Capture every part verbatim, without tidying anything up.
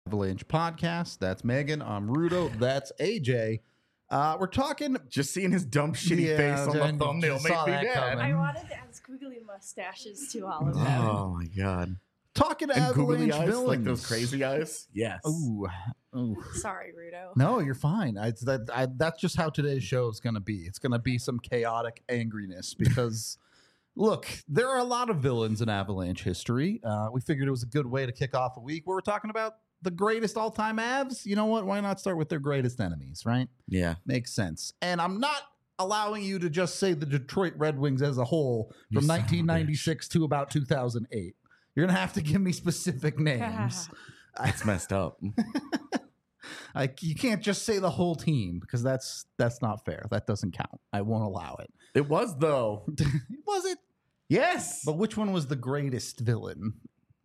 Avalanche podcast. That's Megan. I'm Rudo. That's A J. Uh, we're talking. Just seeing his dumb, shitty Yeah, face on the and thumbnail just made saw me that mad. coming. I wanted to add squiggly mustaches to all of them. Oh my god! Talking And Avalanche googly eyes, villains. like those crazy eyes. Yes. Ooh. Ooh. Sorry, Rudo. No, you're fine. I, that, I, that's just how today's show is going to be. It's going to be some chaotic angriness because, look, there are a lot of villains in Avalanche history. Uh, we figured it was a good way to kick off a week where we're talking about the greatest all-time Avs. You know what? Why not start with their greatest enemies, right? Yeah. Makes sense. And I'm not allowing you to just say the Detroit Red Wings as a whole You from son of a nineteen ninety-six to about two thousand eight. You're going to have to give me specific names. It's messed up. I, you can't just say the whole team because that's that's not fair. That doesn't count. I won't allow it. It was though. Was it? Yes. But which one was the greatest villain?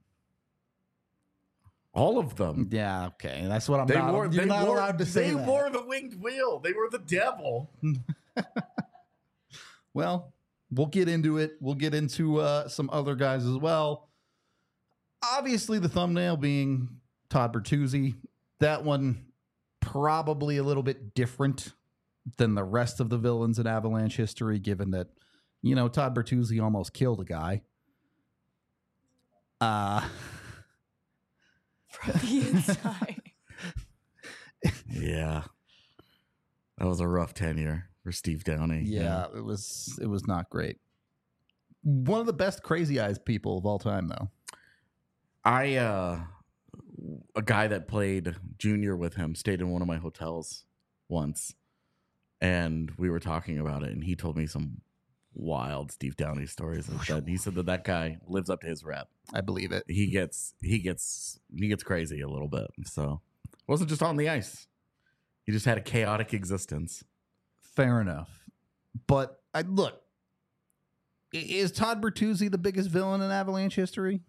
All of them. Yeah, okay. That's what I'm They not. wore. You're They not wore, allowed to say They that. wore the winged wheel. They were the devil. Well, we'll get into it. We'll get into uh, some other guys as well. Obviously, the thumbnail being Todd Bertuzzi. That one probably a little bit different than the rest of the villains in Avalanche history, given that, you know, Todd Bertuzzi almost killed a guy. Uh, From the inside. Yeah. That was a rough tenure for Steve Downey. yeah, it was it was not great. One of the best crazy eyes people of all time, though. I uh a guy that played junior with him stayed in one of my hotels once, and we were talking about it, and he told me some wild Steve Downey stories and said he said that that guy lives up to his rep. I believe it. He gets he gets he gets crazy a little bit. So it wasn't just on the ice. He just had a chaotic existence. Fair enough. But I look, i- is Todd Bertuzzi the biggest villain in Avalanche history?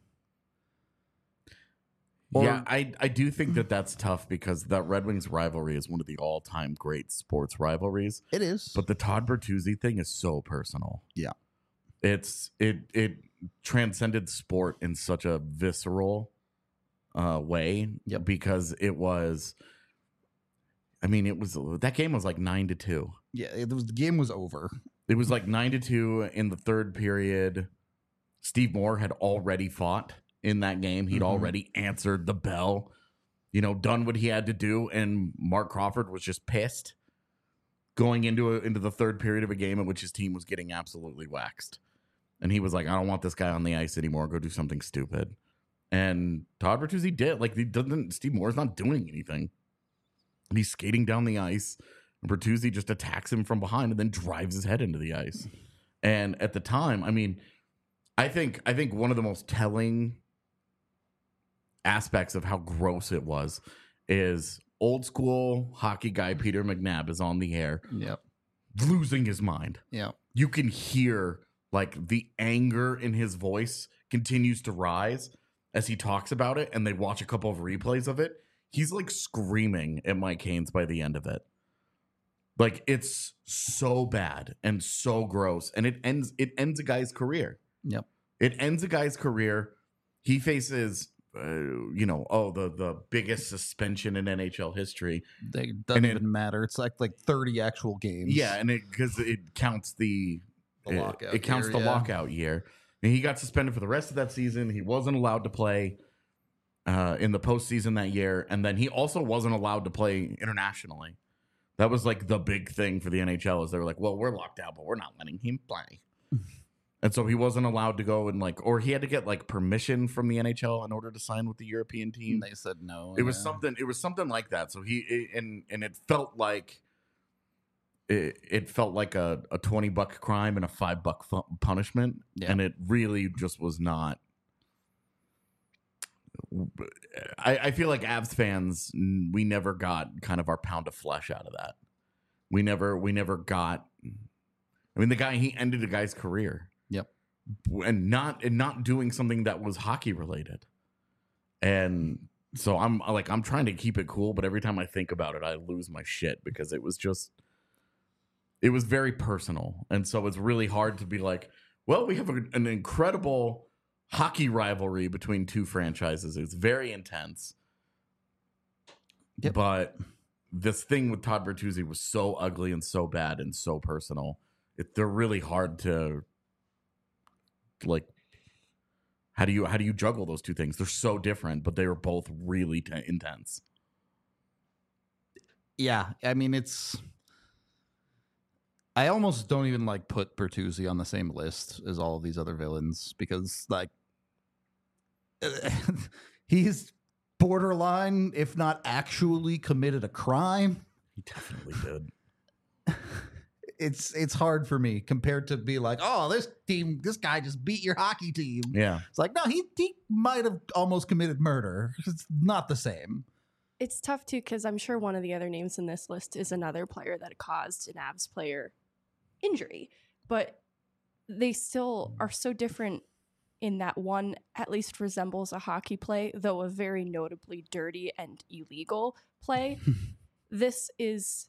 Or- yeah, I, I do think that that's tough because that Red Wings rivalry is one of the all-time great sports rivalries. It is. But the Todd Bertuzzi thing is so personal. Yeah. It's it it transcended sport in such a visceral uh, way. Yep. Because it was. I mean, it was that game was like nine to two. Yeah, it was, the game was over. It was like nine to two in the third period. Steve Moore had already fought in that game. He'd Mhm. already answered the bell, you know, done what he had to do, and Mark Crawford was just pissed going into a, into the third period of a game in which his team was getting absolutely waxed. And he was like, I don't want this guy on the ice anymore. Go do something stupid. And Todd Bertuzzi did. Like, he doesn't. Steve Moore's not doing anything. And he's skating down the ice. And Bertuzzi just attacks him from behind and then drives his head into the ice. And at the time, I mean, I think I think one of the most telling aspects of how gross it was is old school hockey guy Peter McNabb is on the air, Yep. losing his mind. Yep. You can hear like the anger in his voice continues to rise as he talks about it, and they watch a couple of replays of it. He's like screaming at Mike Haynes by the end of it. Like, it's so bad and so gross, and it ends it ends a guy's career. Yep. It ends a guy's career. He faces, uh, you know, oh, the the biggest suspension in N H L history. They, doesn't And it- even matter. It's like like thirty actual games. Yeah, and it because it counts the The it- lockout It, counts year, the yeah. lockout year. And he got suspended for the rest of that season. He wasn't allowed to play uh, in the postseason that year, and then he also wasn't allowed to play internationally. That was like the big thing for the N H L. Is they were like, well, we're locked out, but we're not letting him play. And so he wasn't allowed to go and like, or he had to get like permission from the N H L in order to sign with the European team. And they said no. It was yeah. something. It was something like that. So he it, and and it felt like it, it felt like a, a twenty buck crime and a five buck fu- punishment, Yeah. and it really just was not. I, I feel like Avs fans, we never got kind of our pound of flesh out of that. We never we never got. I mean, the guy he ended a guy's career. Yep. And not and not doing something that was hockey related. And so I'm like I'm trying to keep it cool, but every time I think about it, I lose my shit because it was just it was very personal. And so it's really hard to be like, well, we have a, an incredible hockey rivalry between two franchises. It's very intense. Yep. But this thing with Todd Bertuzzi was so ugly and so bad and so personal. It, they're really hard to like. How do you how do you juggle those two things? They're so different, but they were both really t- intense. Yeah, I mean it's. I almost don't even like put Bertuzzi on the same list as all of these other villains because like he's borderline, if not actually committed a crime. He definitely did. It's it's hard for me compared to be like, oh, this team, this guy just beat your hockey team. Yeah. It's like, no, he he might have almost committed murder. It's not the same. It's tough too because I'm sure one of the other names in this list is another player that caused an Avs player injury, but they still are so different in that one at least resembles a hockey play, though a very notably dirty and illegal play. This is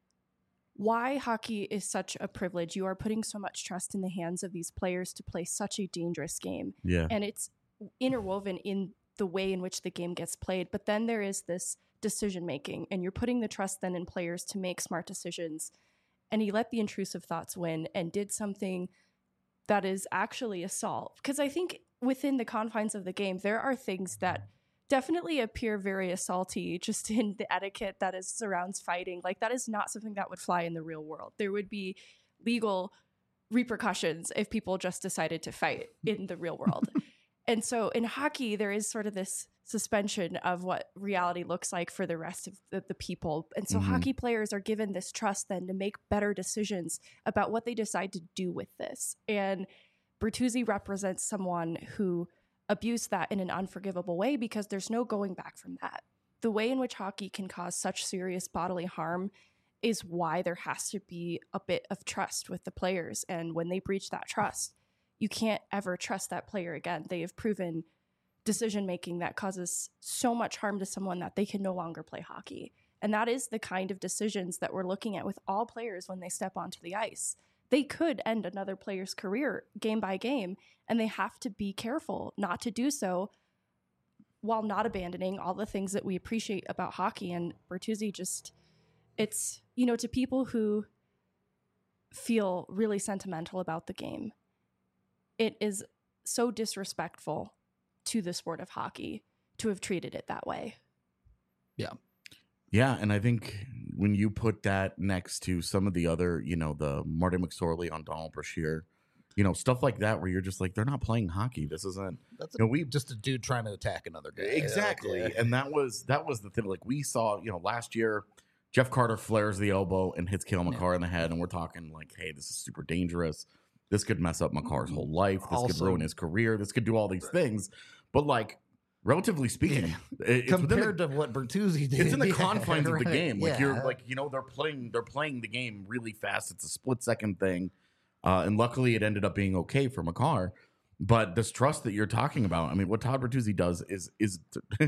why hockey is such a privilege. You are putting so much trust in the hands of these players to play such a dangerous game. Yeah. And it's interwoven in the way in which the game gets played. But then there is this decision making, and you're putting the trust then in players to make smart decisions. And he let the intrusive thoughts win and did something that is actually assault. Because I think within the confines of the game, there are things that definitely appear very assaulty just in the etiquette that is surrounds fighting. Like that is not something that would fly in the real world. There would be legal repercussions if people just decided to fight in the real world. And so in hockey, there is sort of this suspension of what reality looks like for the rest of the, the people. And so Mhm. hockey players are given this trust then to make better decisions about what they decide to do with this. And Bertuzzi represents someone who abused that in an unforgivable way because there's no going back from that. The way in which hockey can cause such serious bodily harm is why there has to be a bit of trust with the players. And when they breach that trust, you can't ever trust that player again. They have proven decision-making that causes so much harm to someone that they can no longer play hockey. And that is the kind of decisions that we're looking at with all players when they step onto the ice. They could end another player's career game by game, and they have to be careful not to do so while not abandoning all the things that we appreciate about hockey. And Bertuzzi just, it's, you know, to people who feel really sentimental about the game, it is so disrespectful to the sport of hockey to have treated it that way. Yeah. Yeah, and I think when you put that next to some of the other, you know, the Martin McSorley on Donald Brashear, you know, stuff like that, where you're just like, they're not playing hockey. This isn't. That's you know, we just a dude trying to attack another guy. exactly, Like, and that was that was the thing. Like we saw, you know, last year, Jeff Carter flares the elbow and hits Cale Makar in the head, and we're talking like, hey, this is super dangerous. This could mess up Makar's whole life. This could Also- ruin his career. This could do all these things. But like, relatively speaking, it- it's within the- compared to what Bertuzzi did, it's in the yeah, confines of the right, game. Like yeah. you're like, you know, they're playing they're playing the game really fast. It's a split second thing. Uh, and luckily it ended up being okay for Makar. But this trust that you're talking about, I mean, what Todd Bertuzzi does is is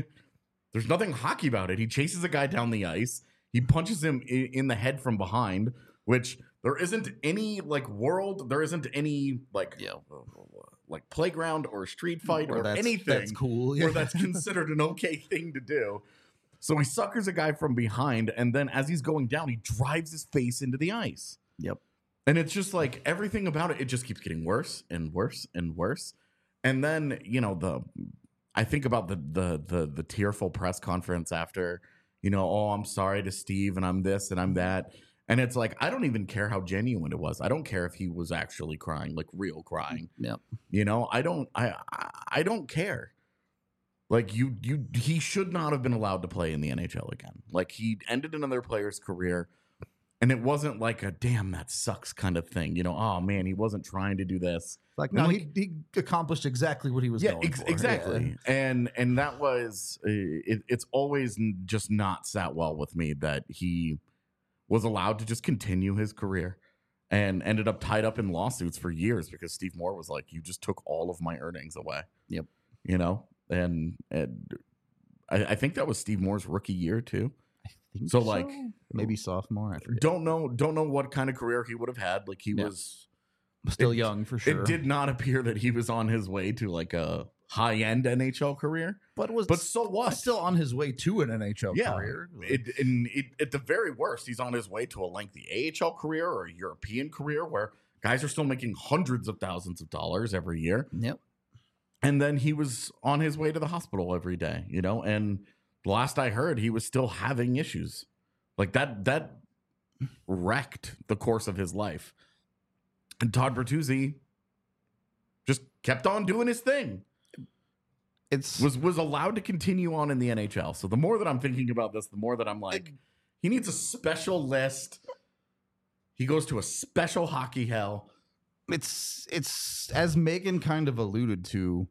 there's nothing hockey about it. He chases a guy down the ice, he punches him in, in the head from behind, which there isn't any like world, there isn't any like Yeah. like playground or street fight Or or that's- anything that's cool, where yeah. that's considered an okay thing to do. So he suckers a guy from behind, and then as he's going down, he drives his face into the ice. Yep. And it's just like everything about it, it just keeps getting worse and worse and worse. And then, you know, the I think about the the the the tearful press conference after, you know, oh, I'm sorry to Steve and I'm this and I'm that. And it's like, I don't even care how genuine it was. I don't care if he was actually crying, like real crying. Yep. You know, I don't I I, I don't care. Like you you he should not have been allowed to play in the N H L again. Like he ended another player's career, and it wasn't like a damn that sucks kind of thing. You know, oh man, he wasn't trying to do this. Like, And no, like- he, he accomplished exactly what he was Yeah, going ex- for. exactly. And and that was uh, it, it's always n- just not sat well with me that he was allowed to just continue his career and ended up tied up in lawsuits for years because Steve Moore was like, you just took all of my earnings away. Yep. You know, and, and I, I think that was Steve Moore's rookie year too. I think So, like, maybe sophomore. I forget. Don't know, don't know what kind of career he would have had. Like he Yeah. was Still it- young for sure. It did not appear that he was on his way to like a high end N H L career. But was But so what? still on his way to an N H L Yeah. career. It, in, it, at the very worst, he's on his way to a lengthy A H L career or a European career where guys are still making hundreds of thousands of dollars every year. Yep. And then he was on his way to the hospital every day, you know, and last I heard, he was still having issues. Like that, that wrecked the course of his life. And Todd Bertuzzi just kept on doing his thing. It's Was was allowed to continue on in the N H L. So the more that I'm thinking about this, the more that I'm like, he needs a special list. He goes to a special hockey hell. it's it's as Megan kind of alluded to.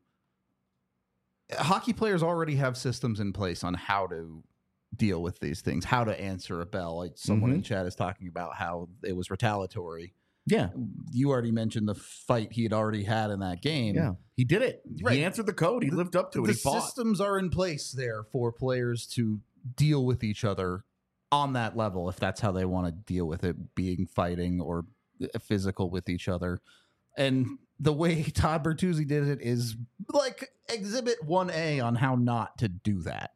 Hockey players already have systems in place on how to deal with these things, how to answer a bell. Like someone Mhm. in chat is talking about how it was retaliatory. Yeah. You already mentioned the fight he had already had in that game. Yeah. He did it. Right. He answered the code. He The- lived up to it. The He fought. systems are in place there for players to deal with each other on that level, if that's how they want to deal with it, being fighting or physical with each other. And the way Todd Bertuzzi did it is like exhibit one A on how not to do that.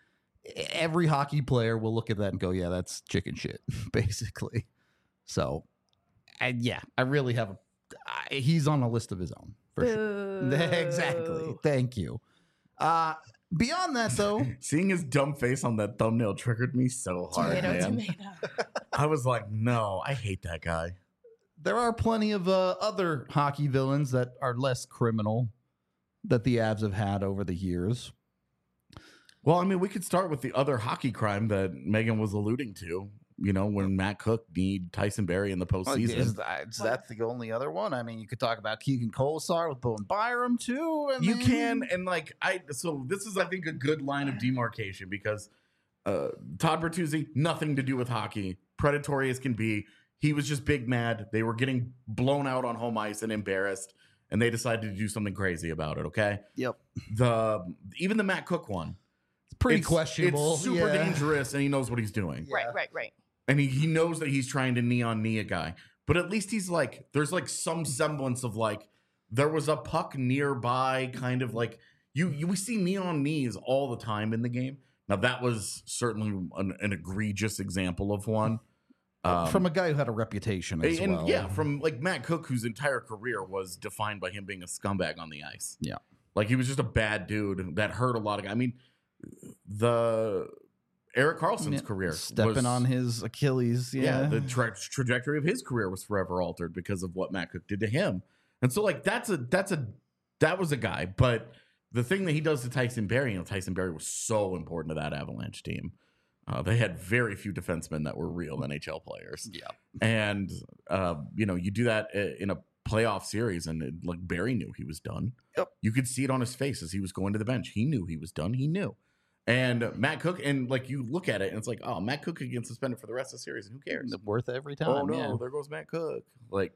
Every hockey player will look at that and go, yeah, that's chicken shit, basically. So, and yeah, I really have a, I, he's on a list of his own. For sure. Boo. Exactly. Thank you. Uh, beyond that, though, Seeing his dumb face on that thumbnail triggered me so hard, Tomato, man. tomato. I was like, no, I hate that guy. there are plenty of uh, other hockey villains that are less criminal that the Avs have had over the years. Well, I mean, we could start with the other hockey crime that Megan was alluding to. You know, when Matt Cook need Tyson Barrie in the postseason. Is that, is that the only other one? I mean, you could talk about Keegan Kolesar with Bowen Byram, too. I You mean- can, and like I, so this is, I think, a good line of demarcation because uh, Todd Bertuzzi, nothing to do with hockey, predatory as can be. He was just big mad. They were getting blown out on home ice and embarrassed, and they decided to do something crazy about it. Okay, Yep. the even the Matt Cook one, It's pretty it's, questionable. It's super yeah. dangerous, and he knows what he's doing. Yeah. Right, right, right. And he, he knows that he's trying to knee on knee a guy. But at least he's like, there's like some semblance of like, there was a puck nearby, kind of like, you, you we see knee on knees all the time in the game. Now, that was certainly an, an egregious example of one. Um, From a guy who had a reputation as and well. yeah, from like Matt Cook, whose entire career was defined by him being a scumbag on the ice. Yeah. Like he was just a bad dude that hurt a lot of guys. I mean, the Eric Carlson's Yeah, career stepping was- on his Achilles. yeah, Yeah. the tra- trajectory of his career was forever altered because of what Matt Cook did to him. And so like that's a that's a that was a guy, but the thing that he does to Tyson Barrie, you know, Tyson Barrie was so important to that Avalanche team. Uh, they had very few defensemen that were real N H L players. Yeah. And uh, you know, you do that i- in a playoff series, and it, like Barrie knew he was done. Yep. You could see it on his face as he was going to the bench. He knew he was done. He knew. And Matt Cook, and like you look at it, and it's like, oh, Matt Cook could get suspended for the rest of the series, and who cares? Worth every time. Oh no, yeah. there goes Matt Cook. Like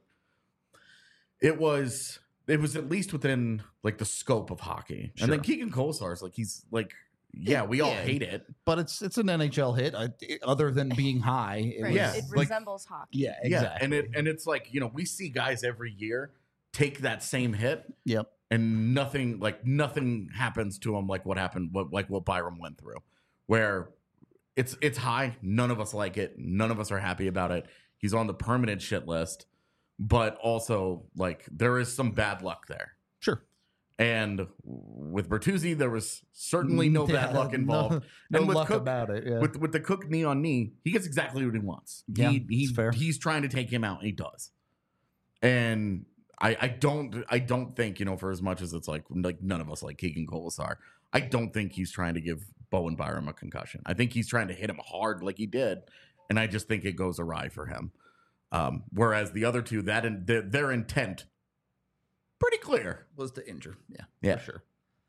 it was, it was at least within like the scope of hockey. And then Sure. Keegan Kolesar's like he's like, yeah, we all Yeah. hate it. But it's it's an N H L hit. I, other than being high, it Right. was- Yeah, It like- resembles hockey. yeah, exactly. Yeah, and it and it's like, you know, we see guys every year take that same hit, Yep. and nothing like nothing happens to them like what happened, what like what Byram went through, where it's it's high. None of us like it. None of us are happy about it. He's on the permanent shit list, but also like there is some bad luck there. Sure. And with Bertuzzi, there was certainly no bad Yeah, luck involved. No, no And with luck Cook- about it. Yeah. With with the Cook knee on knee, he gets exactly what he wants. Yeah, he, he, it's fair. He's trying to take him out, and he does. And I, I don't I don't think, you know, for as much as it's like like none of us like Keegan Kolesar, I don't think he's trying to give Bowen Byram a concussion. I think he's trying to hit him hard like he did, and I just think it goes awry for him. Um, whereas the other two, that in, their, their intent pretty clear. was to injure. Yeah. Yeah. For sure.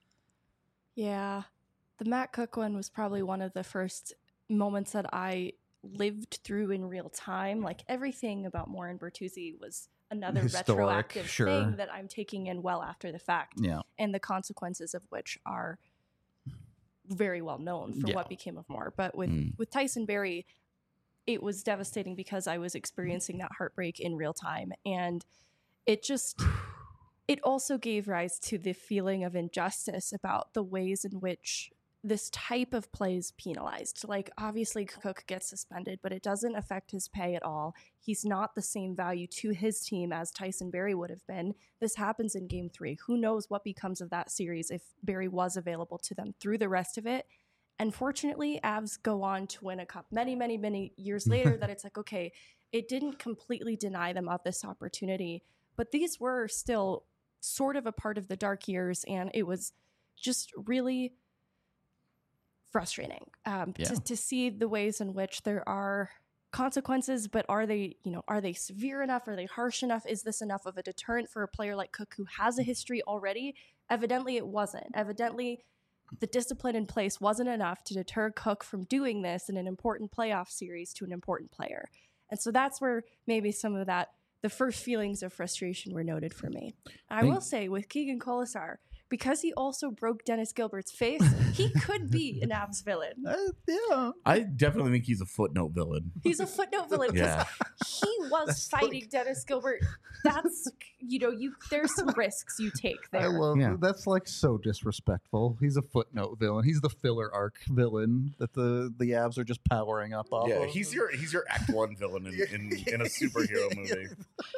Yeah. The Matt Cook one was probably one of the first moments that I lived through in real time. Like everything about Morin Bertuzzi was another Historic, retroactive sure. thing that I'm taking in well after the fact, Yeah. and the consequences of which are very well known for Yeah. what became of Moore. But with, Mm. with Tyson Barrie, it was devastating because I was experiencing that heartbreak in real time. And it just, it also gave rise to the feeling of injustice about the ways in which this type of play is penalized. Like, obviously, Cook gets suspended, but it doesn't affect his pay at all. He's not the same value to his team as Tyson Barrie would have been. This happens in game three. Who knows what becomes of that series if Barrie was available to them through the rest of it. And fortunately, Avs go on to win a cup many, many, many years later that it's like, okay, it didn't completely deny them of this opportunity, but these were still sort of a part of the dark years, and it was just really frustrating um, Yeah. to, to see the ways in which there are consequences, but are they, you know, are they severe enough? Are they harsh enough? Is this enough of a deterrent for a player like Cook who has a history already? Evidently it wasn't. Evidently the discipline in place wasn't enough to deter Cook from doing this in an important playoff series to an important player. And so that's where maybe some of that, the first feelings of frustration were noted for me. I Think- will say with Keegan Colasar, because he also broke Dennis Gilbert's face, he could be an Avs villain. Uh, yeah. I definitely think he's a footnote villain. He's a footnote villain because Yeah. he was That's fighting like- Dennis Gilbert. That's, you know, you there's some risks you take I there. love Yeah. that's like so disrespectful. He's a footnote villain. He's the filler arc villain that the the Avs are just powering up off. Yeah, of. he's your he's your Act One villain in, in, in a superhero movie.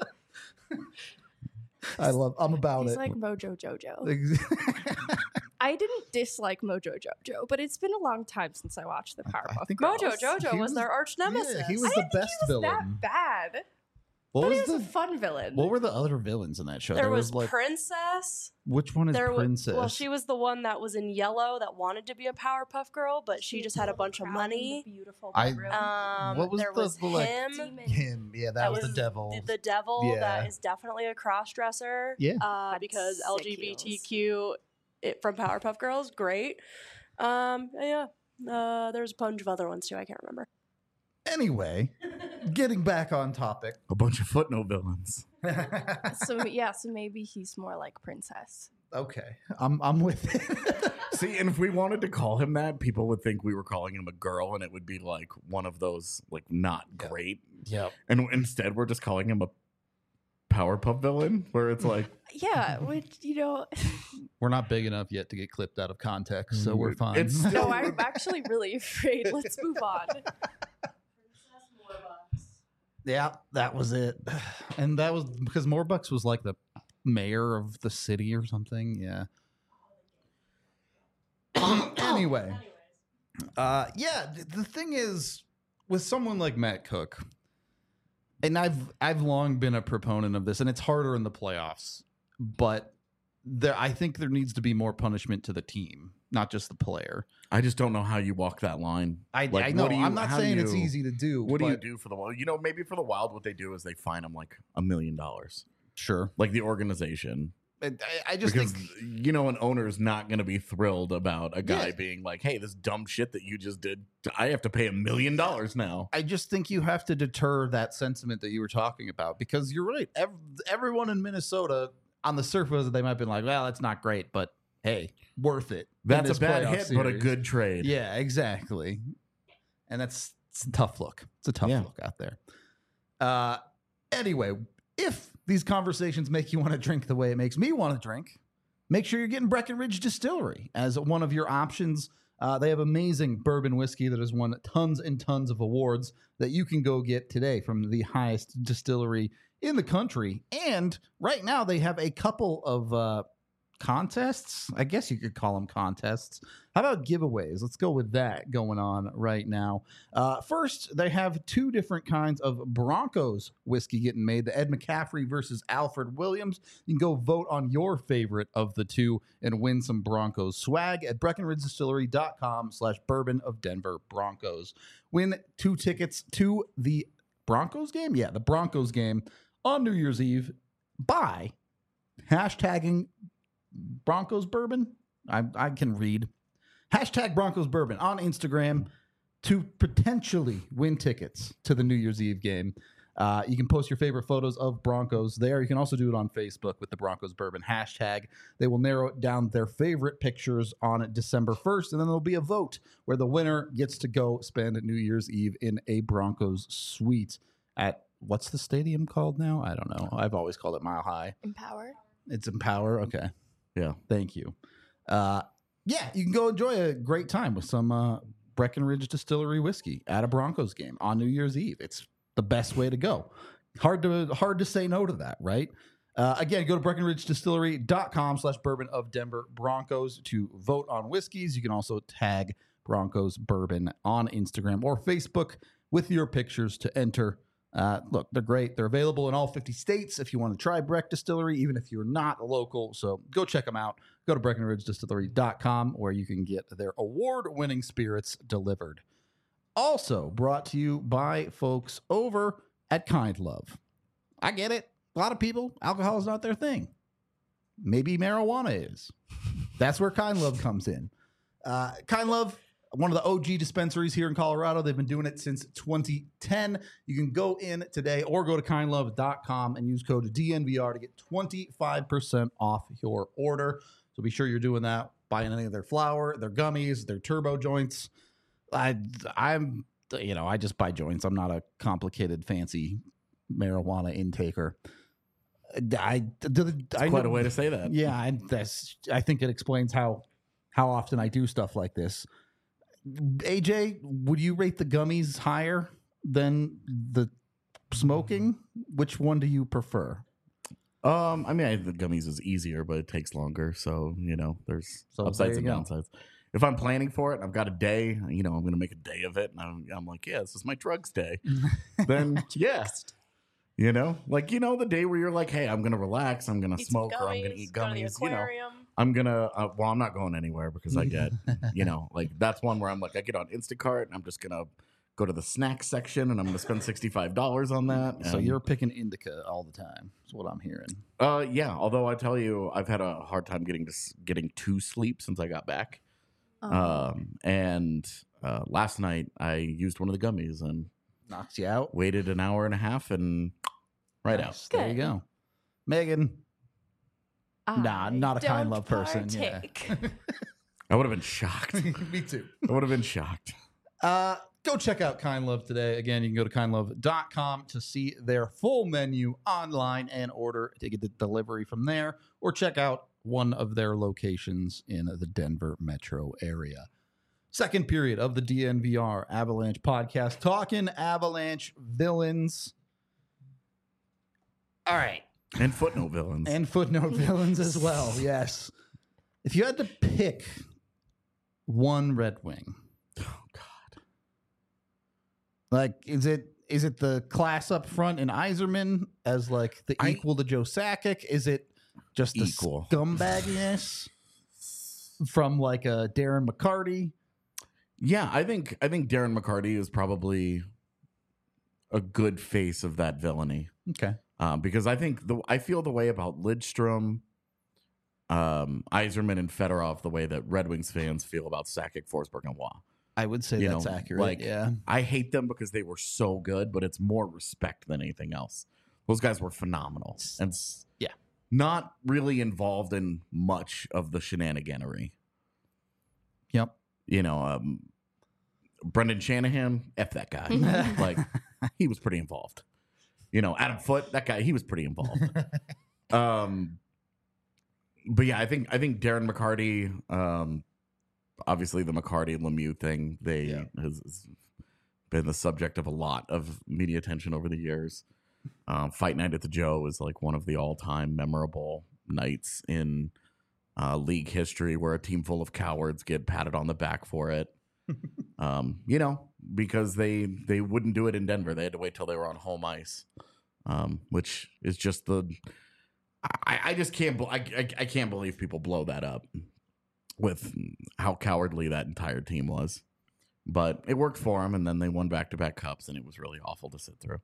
I love. I'm about He's it. like Mojo Jojo. Ex- I didn't dislike Mojo Jojo, but it's been a long time since I watched the Powerpuff think Girls. Mojo was- Jojo he was was- their arch nemesis. Yeah, he was I the didn't think best he was villain. that bad. What But was he was the a fun villain. what were the other villains in that show? there was like Princess. which one is There was Princess? well, she was the one that was in yellow that wanted to be a Powerpuff Girl, but she just had a bunch of Crown in the money. Beautiful I- bedroom. Um, What was there the- was the, like, him. Demon. him. Yeah, that, That was, was the devil. The, the devil Yeah. that is definitely a cross dresser. Yeah. Uh, Had because sick L G B T Q it, from Powerpuff Girls, great. Um, yeah. Uh, there's a bunch of other ones too. I can't remember. Anyway, getting back on topic. A bunch of footnote villains. So yeah, so maybe he's more like Princess. Okay, I'm I'm with it. See, and if we wanted to call him that, people would think we were calling him a girl, and it would be like one of those like not Yeah. great. Yep. And instead, we're just calling him a Powerpuff villain, where it's like, Yeah, which, you know, We're not big enough yet to get clipped out of context, so we're fine. It's still- no, I'm actually really afraid. Let's move on. yeah, that was it. And that was because Morbucks was like the mayor of the city or something. Yeah. Anyway, uh, yeah, th- the thing is, with someone like Matt Cook, and I've I've long been a proponent of this, and it's harder in the playoffs, but there I think there needs to be more punishment to the team, not just the player. I just don't know how you walk that line. I, Like, I what know do you- I'm not how do saying it's you- easy to do. What do you but- do for the Wild? You know, maybe for the Wild, what they do is they fine them like a million dollars, Sure, like the organization. I, I- I just Because think you know, an owner is not going to be thrilled about a guy Yeah. being like, "Hey, this dumb shit that you just did, I have to pay a million dollars now." I just think you have to deter that sentiment that you were talking about, because you're right. Ev- everyone in Minnesota, on the surface, they might be like, "Well, that's not great, but hey, worth it." in That's this a bad playoff hit, but a series." good trade. Yeah, exactly. And that's it's a tough look. It's a tough Yeah. look out there. Uh, anyway, if these conversations make you want to drink the way it makes me want to drink, make sure you're getting Breckenridge Distillery as one of your options. Uh, they have amazing bourbon whiskey that has won tons and tons of awards that you can go get today from the highest distillery in the country. And right now they have a couple of uh, contests. I guess you could call them contests. How about giveaways? Let's go with that going on right now. Uh, first, they have two different kinds of Broncos whiskey getting made. The Ed McCaffrey versus Alfred Williams. You can go vote on your favorite of the two and win some Broncos swag at breckenridgedistillery.com slash bourbon of Denver Broncos. Win two tickets to the Broncos game? Yeah, the Broncos game on New Year's Eve by hashtagging Broncos Bourbon. I, I can read. Hashtag Broncos Bourbon on Instagram to potentially win tickets to the New Year's Eve game. Uh, you can post your favorite photos of Broncos there. You can also do it on Facebook with the Broncos Bourbon hashtag. They will narrow down their favorite pictures on December first, and then there'll be a vote where the winner gets to go spend New Year's Eve in a Broncos suite at, what's the stadium called now? I don't know. I've always called it Mile High. Empower. It's Empower. Okay. Yeah. Thank you. Uh, yeah, you can go enjoy a great time with some uh, Breckenridge Distillery whiskey at a Broncos game on New Year's Eve. It's the best way to go. Hard to hard to say no to that, right? Uh, again, go to breckenridge distillery dot com slash bourbon of Denver Broncos to vote on whiskeys. You can also tag Broncos Bourbon on Instagram or Facebook with your pictures to enter. Uh, look, they're great. They're available in all fifty states if you want to try Breck Distillery, even if you're not a local. So go check them out. Go to breckenridge distillery dot com where you can get their award-winning spirits delivered. Also brought to you by folks over at Kind Love. I get it. A lot of people, alcohol is not their thing. Maybe marijuana is. That's where Kind Love comes in. Uh, Kind Love, one of the O G dispensaries here in Colorado. They've been doing it since twenty ten. You can go in today or go to kind love dot com and use code D N V R to get twenty-five percent off your order. So be sure you're doing that, buying any of their flour, their gummies, their turbo joints. I, I'm, you know, I just buy joints. I'm not a complicated, fancy marijuana intaker. I, do, That's I quite know, a way to say that. Yeah, I, that's. I think it explains how how often I do stuff like this. A J, would you rate the gummies higher than the smoking? Which one do you prefer? Um, I mean, I, the gummies is easier, but it takes longer. So, you know, there's So upsides there and you go. downsides. If I'm planning for it, and I've got a day, you know, I'm going to make a day of it. And I'm, I'm like, yeah, this is my drugs day. Then, yeah. You know, like, you know, the day where you're like, hey, I'm going to relax. I'm going to Eat some smoke or I'm going to gummies, eat go to the gummies. You know, aquarium. I'm going to, uh, well, I'm not going anywhere because I get, you know, like that's one where I'm like, I get on Instacart and I'm just going to go to the snack section and I'm going to spend sixty-five dollars on that. So and- you're picking indica all the time. That's what I'm hearing. Uh, yeah. Although I tell you, I've had a hard time getting to s- getting to sleep since I got back. Um, Um, and uh, last night I used one of the gummies and Knocks you out. waited an hour and a half and right out. Nice. There you Good. go. Megan. Nah, I not a kind don't love person, yeah. partake. I would have been shocked. Me too. I would have been shocked. Uh, go check out Kind Love today. Again, you can go to kind love dot com to see their full menu online and order to get the delivery from there, or check out one of their locations in the Denver metro area. Second period of the D N V R Avalanche podcast, talking Avalanche villains. All right. And footnote villains. And footnote villains as well, yes. If you had to pick one Red Wing, oh God. like, is it is it the class up front in Iserman as like the I- equal to Joe Sakic? Is it just the Equal. scumbagginess from like a Darren McCarty? Yeah, I think I think Darren McCarty is probably a good face of that villainy. Okay. Um, because I think the I feel the way about Lidstrom, um, Iserman, and Fedorov the way that Red Wings fans feel about Sakic, Forsberg, and Waugh. I would say You that's know, accurate. like- yeah. I hate them because they were so good, but it's more respect than anything else. Those guys were phenomenal and s- Yeah. not really involved in much of the shenaniganery. Yep. You know, um, Brendan Shanahan, F that guy. Like, he was pretty involved. You know, Adam Foote, that guy, he was pretty involved. um, but yeah, I think I think Darren McCarty, um, obviously the McCarty Lemieux thing, they Yeah. has, has been the subject of a lot of media attention over the years. Um, Fight Night at the Joe is like one of the all-time memorable nights in uh, league history, where a team full of cowards get patted on the back for it. um, you know, because they they wouldn't do it in Denver. They had to wait till they were on home ice, um, which is just the. I, I just can't. bel- I, I I can't believe people blow that up with how cowardly that entire team was. But it worked for them, and then they won back to back cups, and it was really awful to sit through.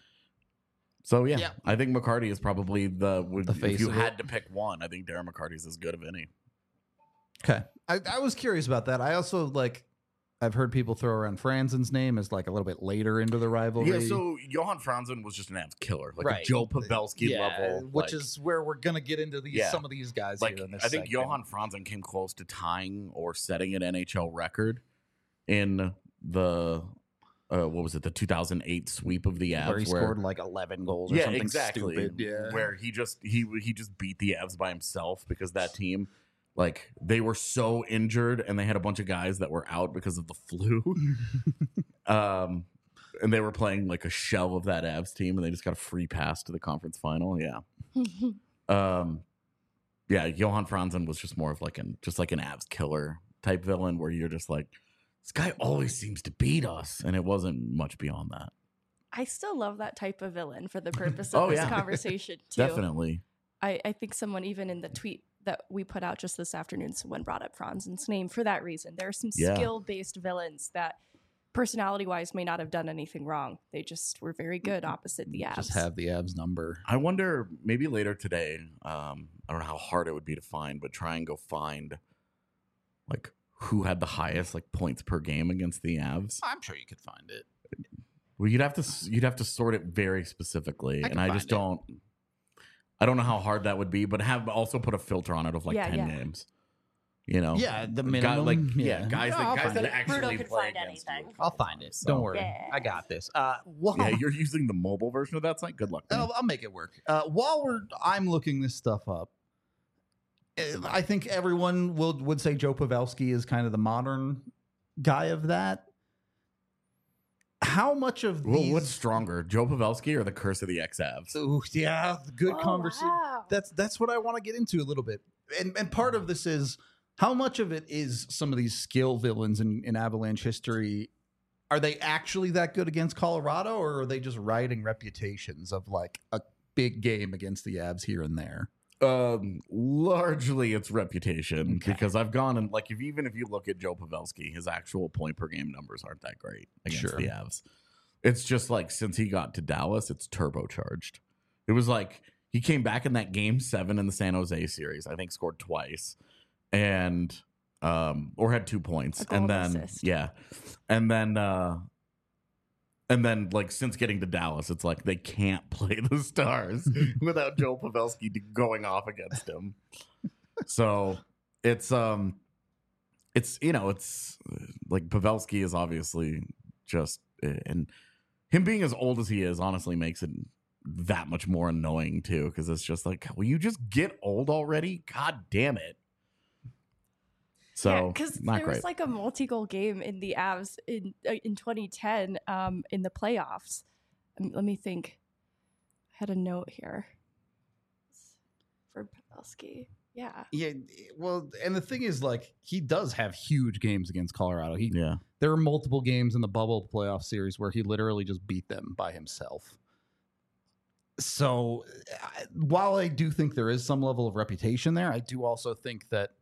So yeah, Yeah. I think McCarty is probably the. Would, The face if you of had it. to pick one, I think Darren McCarty's as good of any. Okay. I, I was curious about that. I also like I've heard people throw around Franzen's name as like a little bit later into the rivalry. Yeah, so Johan Franzen was just an abs killer, like Right. a Joe Pavelski Yeah, level, which like- is where we're gonna get into these Yeah. some of these guys like here in this I think segment. Johan Franzen came close to tying or setting an N H L record in the uh, what was it, the two thousand eight sweep of the Avs, where he scored like eleven goals or yeah, something exactly, stupid. Yeah. where he just he he just beat the Avs by himself because that team, like, they were so injured and they had a bunch of guys that were out because of the flu. um, and they were playing like a shell of that Avs team, and they just got a free pass to the conference final. Yeah. um, yeah, Johan Franzen was just more of like an just like an Avs killer type villain, where you're just like, this guy always seems to beat us, and it wasn't much beyond that. I still love that type of villain for the purpose of Oh, this yeah. conversation too. Definitely. I, I think someone even in the tweet that we put out just this afternoon, someone brought up Franzen's name for that reason. There are some Yeah. skill-based villains that personality-wise may not have done anything wrong. They just were very good opposite the Avs. Just have the Avs number. I wonder, maybe later today, um, I don't know how hard it would be to find, but try and go find like who had the highest like points per game against the Avs. I'm sure you could find it. Well, you'd have to s- you'd have to sort it very specifically, I and can I find just it. don't. I don't know how hard that would be, but have also put a filter on it of like Yeah, ten yeah. games. You know, Yeah, the Guy- minimum. like yeah, guys I'll that guys find that it. actually Bruno can play find against anything. you. I'll find it. So- Don't worry. Yeah. I got this. Uh, while, Yeah, you're using the mobile version of that site. Good luck. man. I'll, I'll make it work. Uh, while we're, I'm looking this stuff up. uh, I think everyone will would say Joe Pavelski is kind of the modern guy of that. How much of Well, these? what's stronger, Joe Pavelski or the curse of the X-Avs? Ooh, yeah, good Oh, conversation. wow. That's that's what I want to get into a little bit. And and part of this is how much of it is some of these skill villains in, in Avalanche history. Are they actually that good against Colorado, or are they just riding reputations of like a big game against the Avs here and there? Um, largely it's reputation, Okay. because I've gone and like if even if you look at Joe Pavelski, his actual point per game numbers aren't that great against Sure. the Avs. It's just like since he got to Dallas, it's turbocharged. It was like he came back in that game seven in the San Jose series, I think scored twice, and um or had two points, A goal and and then assist. yeah, and then uh and then, like, since getting to Dallas, it's like they can't play the Stars without Joe Pavelski going off against him. So it's um, it's you know, it's uh, like Pavelski is obviously just, and him being as old as he is, honestly, makes it that much more annoying too, because it's just like, will you just get old already? God damn it! So because not there great. was like a multi-goal game in the Avs in uh, in twenty ten um, in the playoffs. Um, let me think. I had a note here for Pavelski. Yeah, Yeah, well, and the thing is, like, he does have huge games against Colorado. He yeah. there are multiple games in the bubble playoff series where he literally just beat them by himself. So, I- while I do think there is some level of reputation there, I do also think that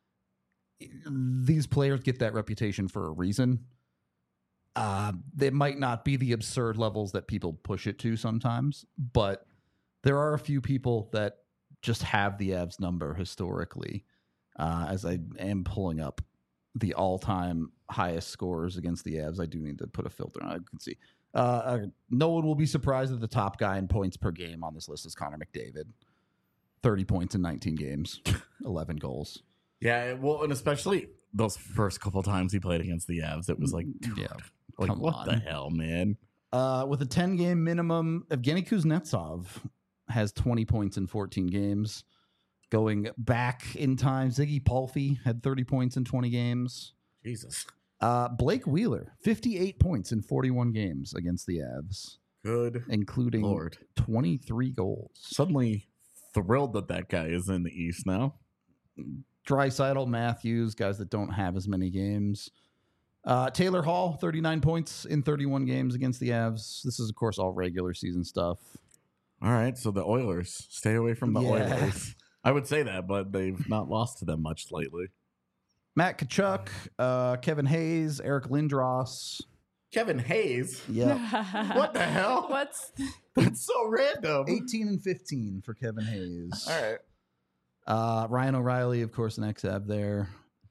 these players get that reputation for a reason. Uh, they might not be the absurd levels that people push it to sometimes, but there are a few people that just have the Avs number historically. Uh, as I am pulling up the all-time highest scores against the Avs, I do need to put a filter on it. I can see. Uh, uh, no one will be surprised that the top guy in points per game on this list is Connor McDavid. thirty points in nineteen games, eleven goals. Yeah, well, and especially those first couple times he played against the Avs, it was like, dude, Yeah, like come what on. the hell, man? Uh, with a ten-game minimum, Evgeny Kuznetsov has twenty points in fourteen games. Going back in time, Ziggy Palffy had thirty points in twenty games. Jesus, Uh, Blake Wheeler, fifty-eight points in forty-one games against the Avs, good including Lord! twenty-three goals. Suddenly thrilled that that guy is in the East now. Draisaitl, Matthews, guys that don't have as many games. Uh, Taylor Hall, thirty-nine points in thirty-one games against the Avs. This is, of course, all regular season stuff. All right, so the Oilers, stay away from the Yeah. Oilers. I would say that, but they've not lost to them much lately. Matt Tkachuk, uh, Kevin Hayes, Eric Lindros. Kevin Hayes, Yeah. what the hell? What's That's so random. eighteen and fifteen for Kevin Hayes. All right. Uh, Ryan O'Reilly, of course, an X-Av there.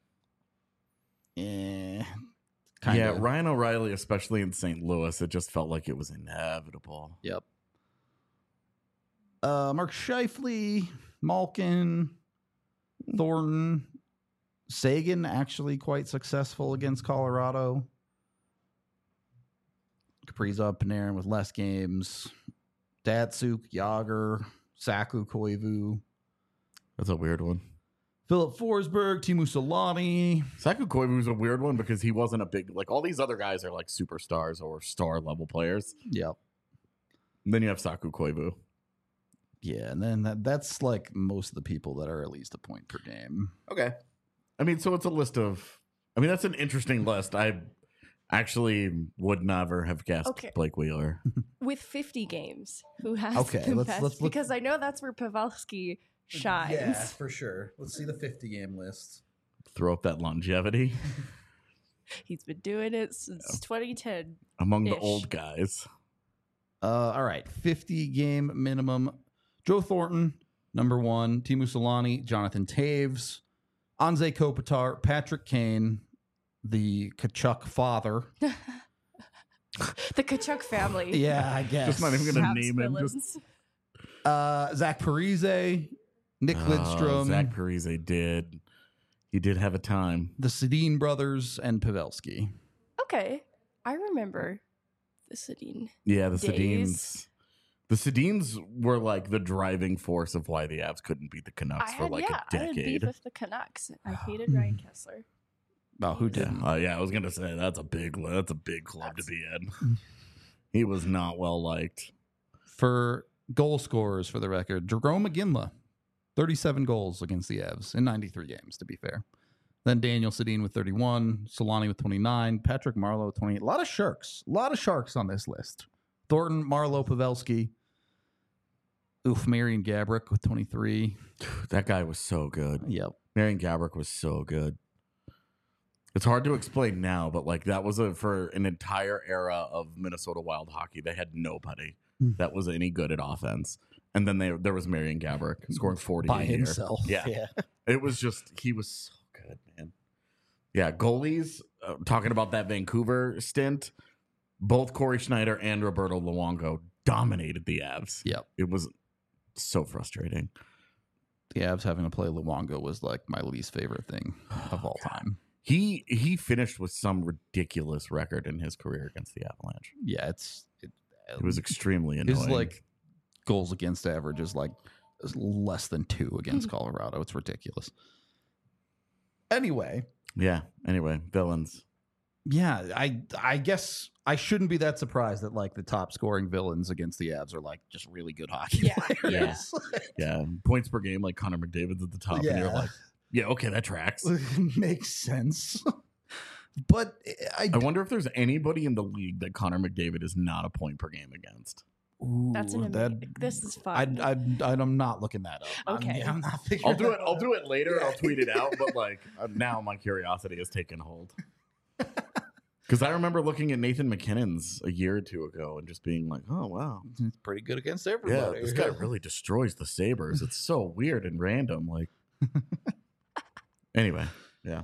Eh, kinda. Yeah, Ryan O'Reilly, especially in Saint Louis, it just felt like it was inevitable. Yep. Uh, Mark Scheifele, Malkin, Thornton, Sagan, actually quite successful against Colorado. Kaprizov, Panarin with less games. Datsuk, Yager, Saku, Koivu, That's a weird one. Philip Forsberg, Timu Solani. Saku Koivu was a weird one because he wasn't a big, like all these other guys are like superstars or star level players. Yep. And then you have Saku Koivu. Yeah, and then that, that's like most of the people that are at least a point per game. Okay. I mean, so it's a list of, I mean, that's an interesting list. I actually would never have guessed Okay. Blake Wheeler. With fifty games, who has Okay, the let's- best? let's look- Because I know that's where Pavelski shines. for sure. Let's see the fifty game list. Throw up that longevity He's been doing it since twenty ten. among the Ish. old guys. Uh, all right, fifty game minimum. Joe Thornton, number one. Timu Solani, Jonathan Taves, Anze Kopitar, Patrick Kane, the Kachuk father. The Kachuk family. Yeah, I guess. Just not even gonna Habs name him. Just villains. Uh, Zach Parise, Nick Oh, Lidstrom, Zach Parise did. He did have a time. the Sedin brothers, and Pavelski. Okay, I remember the Sedin. Yeah, the Days. Sedins. The Sedins were like the driving force of why the Avs couldn't beat the Canucks I for had like yeah, a I had beef decade. with the Canucks. I hated Ryan Kessler. Oh, who Yeah, didn't? uh, yeah, I was gonna say that's a big that's a big club That's- to be in. He was not well liked. For goal scorers, for the record, Jerome McGinley, thirty-seven goals against the Avs in ninety-three games, to be fair. Then Daniel Sedin with thirty-one, Solani with twenty-nine, Patrick Marleau with twenty-eight. A lot of Sharks. A lot of Sharks on this list. Thornton, Marleau, Pavelski. Oof, Marion Gabrick with twenty-three. That guy was so good. Yep. Marion Gabrick was so good. It's hard to explain now, but like that was a for an entire era of Minnesota Wild hockey. They had nobody Mm. that was any good at offense, and then they, there was Marion Gabrick scoring forty By a year. himself. Yeah. It was just he was so good, man. Yeah, goalies. Uh, talking about that Vancouver stint, both Corey Schneider and Roberto Luongo dominated the Avs. Yep. It was so frustrating. The Avs having to play Luongo was like my least favorite thing of all time. He he finished with some ridiculous record in his career against the Avalanche. Yeah, it's it, It was extremely annoying. his like goals against average is like is less than two against Colorado. It's ridiculous. Anyway, yeah. Anyway, villains. yeah, I I guess I shouldn't be that surprised that like the top scoring villains against the Avs are like just really good hockey Yeah, players. Yeah, points per game like Connor McDavid's at the top, and you're like, yeah, okay, that tracks. makes sense. But I, I wonder if there's anybody in the league that Connor McDavid is not a point per game against. That's an ooh, that- amazing. This is I, fun. I, I'm not looking that up. I'm- Okay. I'm, not figuring I'll do it. that I'll out. do it later. I'll tweet it out. But like uh, now, my curiosity has taken hold. Because I remember looking at Nathan McKinnon's a year or two ago and just being like, "Oh wow, It's pretty good against yeah, everybody. this guy really destroys the Sabres. It's so weird and random." Like, anyway, yeah.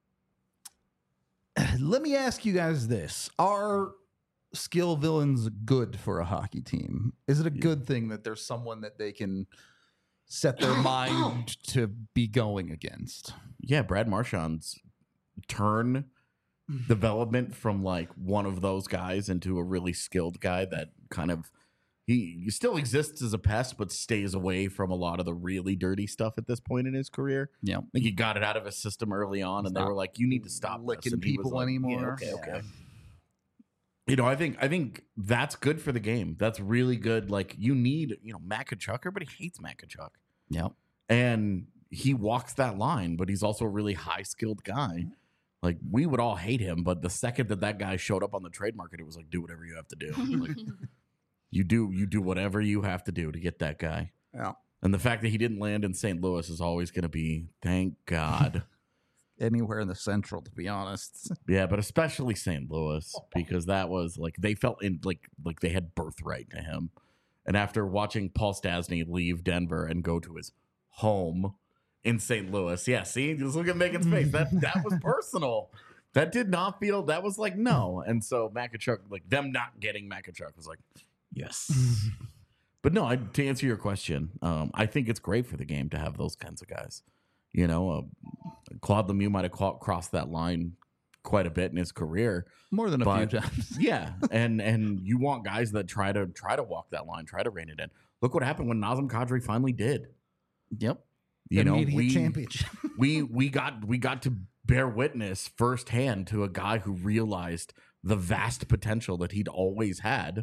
Let me ask you guys this. Are skill villains good for a hockey team? Is it a good thing that there's someone that they can set their mind to be going against? Yeah, Brad Marchand's turn development from like one of those guys into a really skilled guy that kind of he, he still exists as a pest, but stays away from a lot of the really dirty stuff at this point in his career. Yeah. I think he got it out of his system early on, He's and they not were like, "You need to stop this." licking And he was people like, anymore. Yeah, okay, Yeah. okay. You know, I think I think that's good for the game. That's really good. Like you need, you know, Matt Tkachuk. Everybody hates Matt Tkachuk. Yeah. And he walks that line, but he's also a really high skilled guy. Like we would all hate him, but the second that that guy showed up on the trade market, it was like, do whatever you have to do. Like, you do you do whatever you have to do to get that guy. Yeah. And the fact that he didn't land in Saint Louis is always going to be, thank God. Anywhere in the Central, to be honest. Yeah, but especially Saint Louis because that was like they felt in like like they had birthright to him. And after watching Paul Stastny leave Denver and go to his home in Saint Louis, yeah, see, just look at Megan's face. That that was personal. That did not feel. That was like no. And so Matt Tkachuk, like them not getting Matt Tkachuk was like yes. But no, I, to answer your question, um, I think it's great for the game to have those kinds of guys. You know, uh, Claude Lemieux might have cro- crossed that line quite a bit in his career. More than a But- few times. Yeah, and and you want guys that try to try to walk that line, try to rein it in. Look what happened when Nazem Kadri finally did. Yep. You know, Immediate we championship. we we got we got to bear witness firsthand to a guy who realized the vast potential that he'd always had,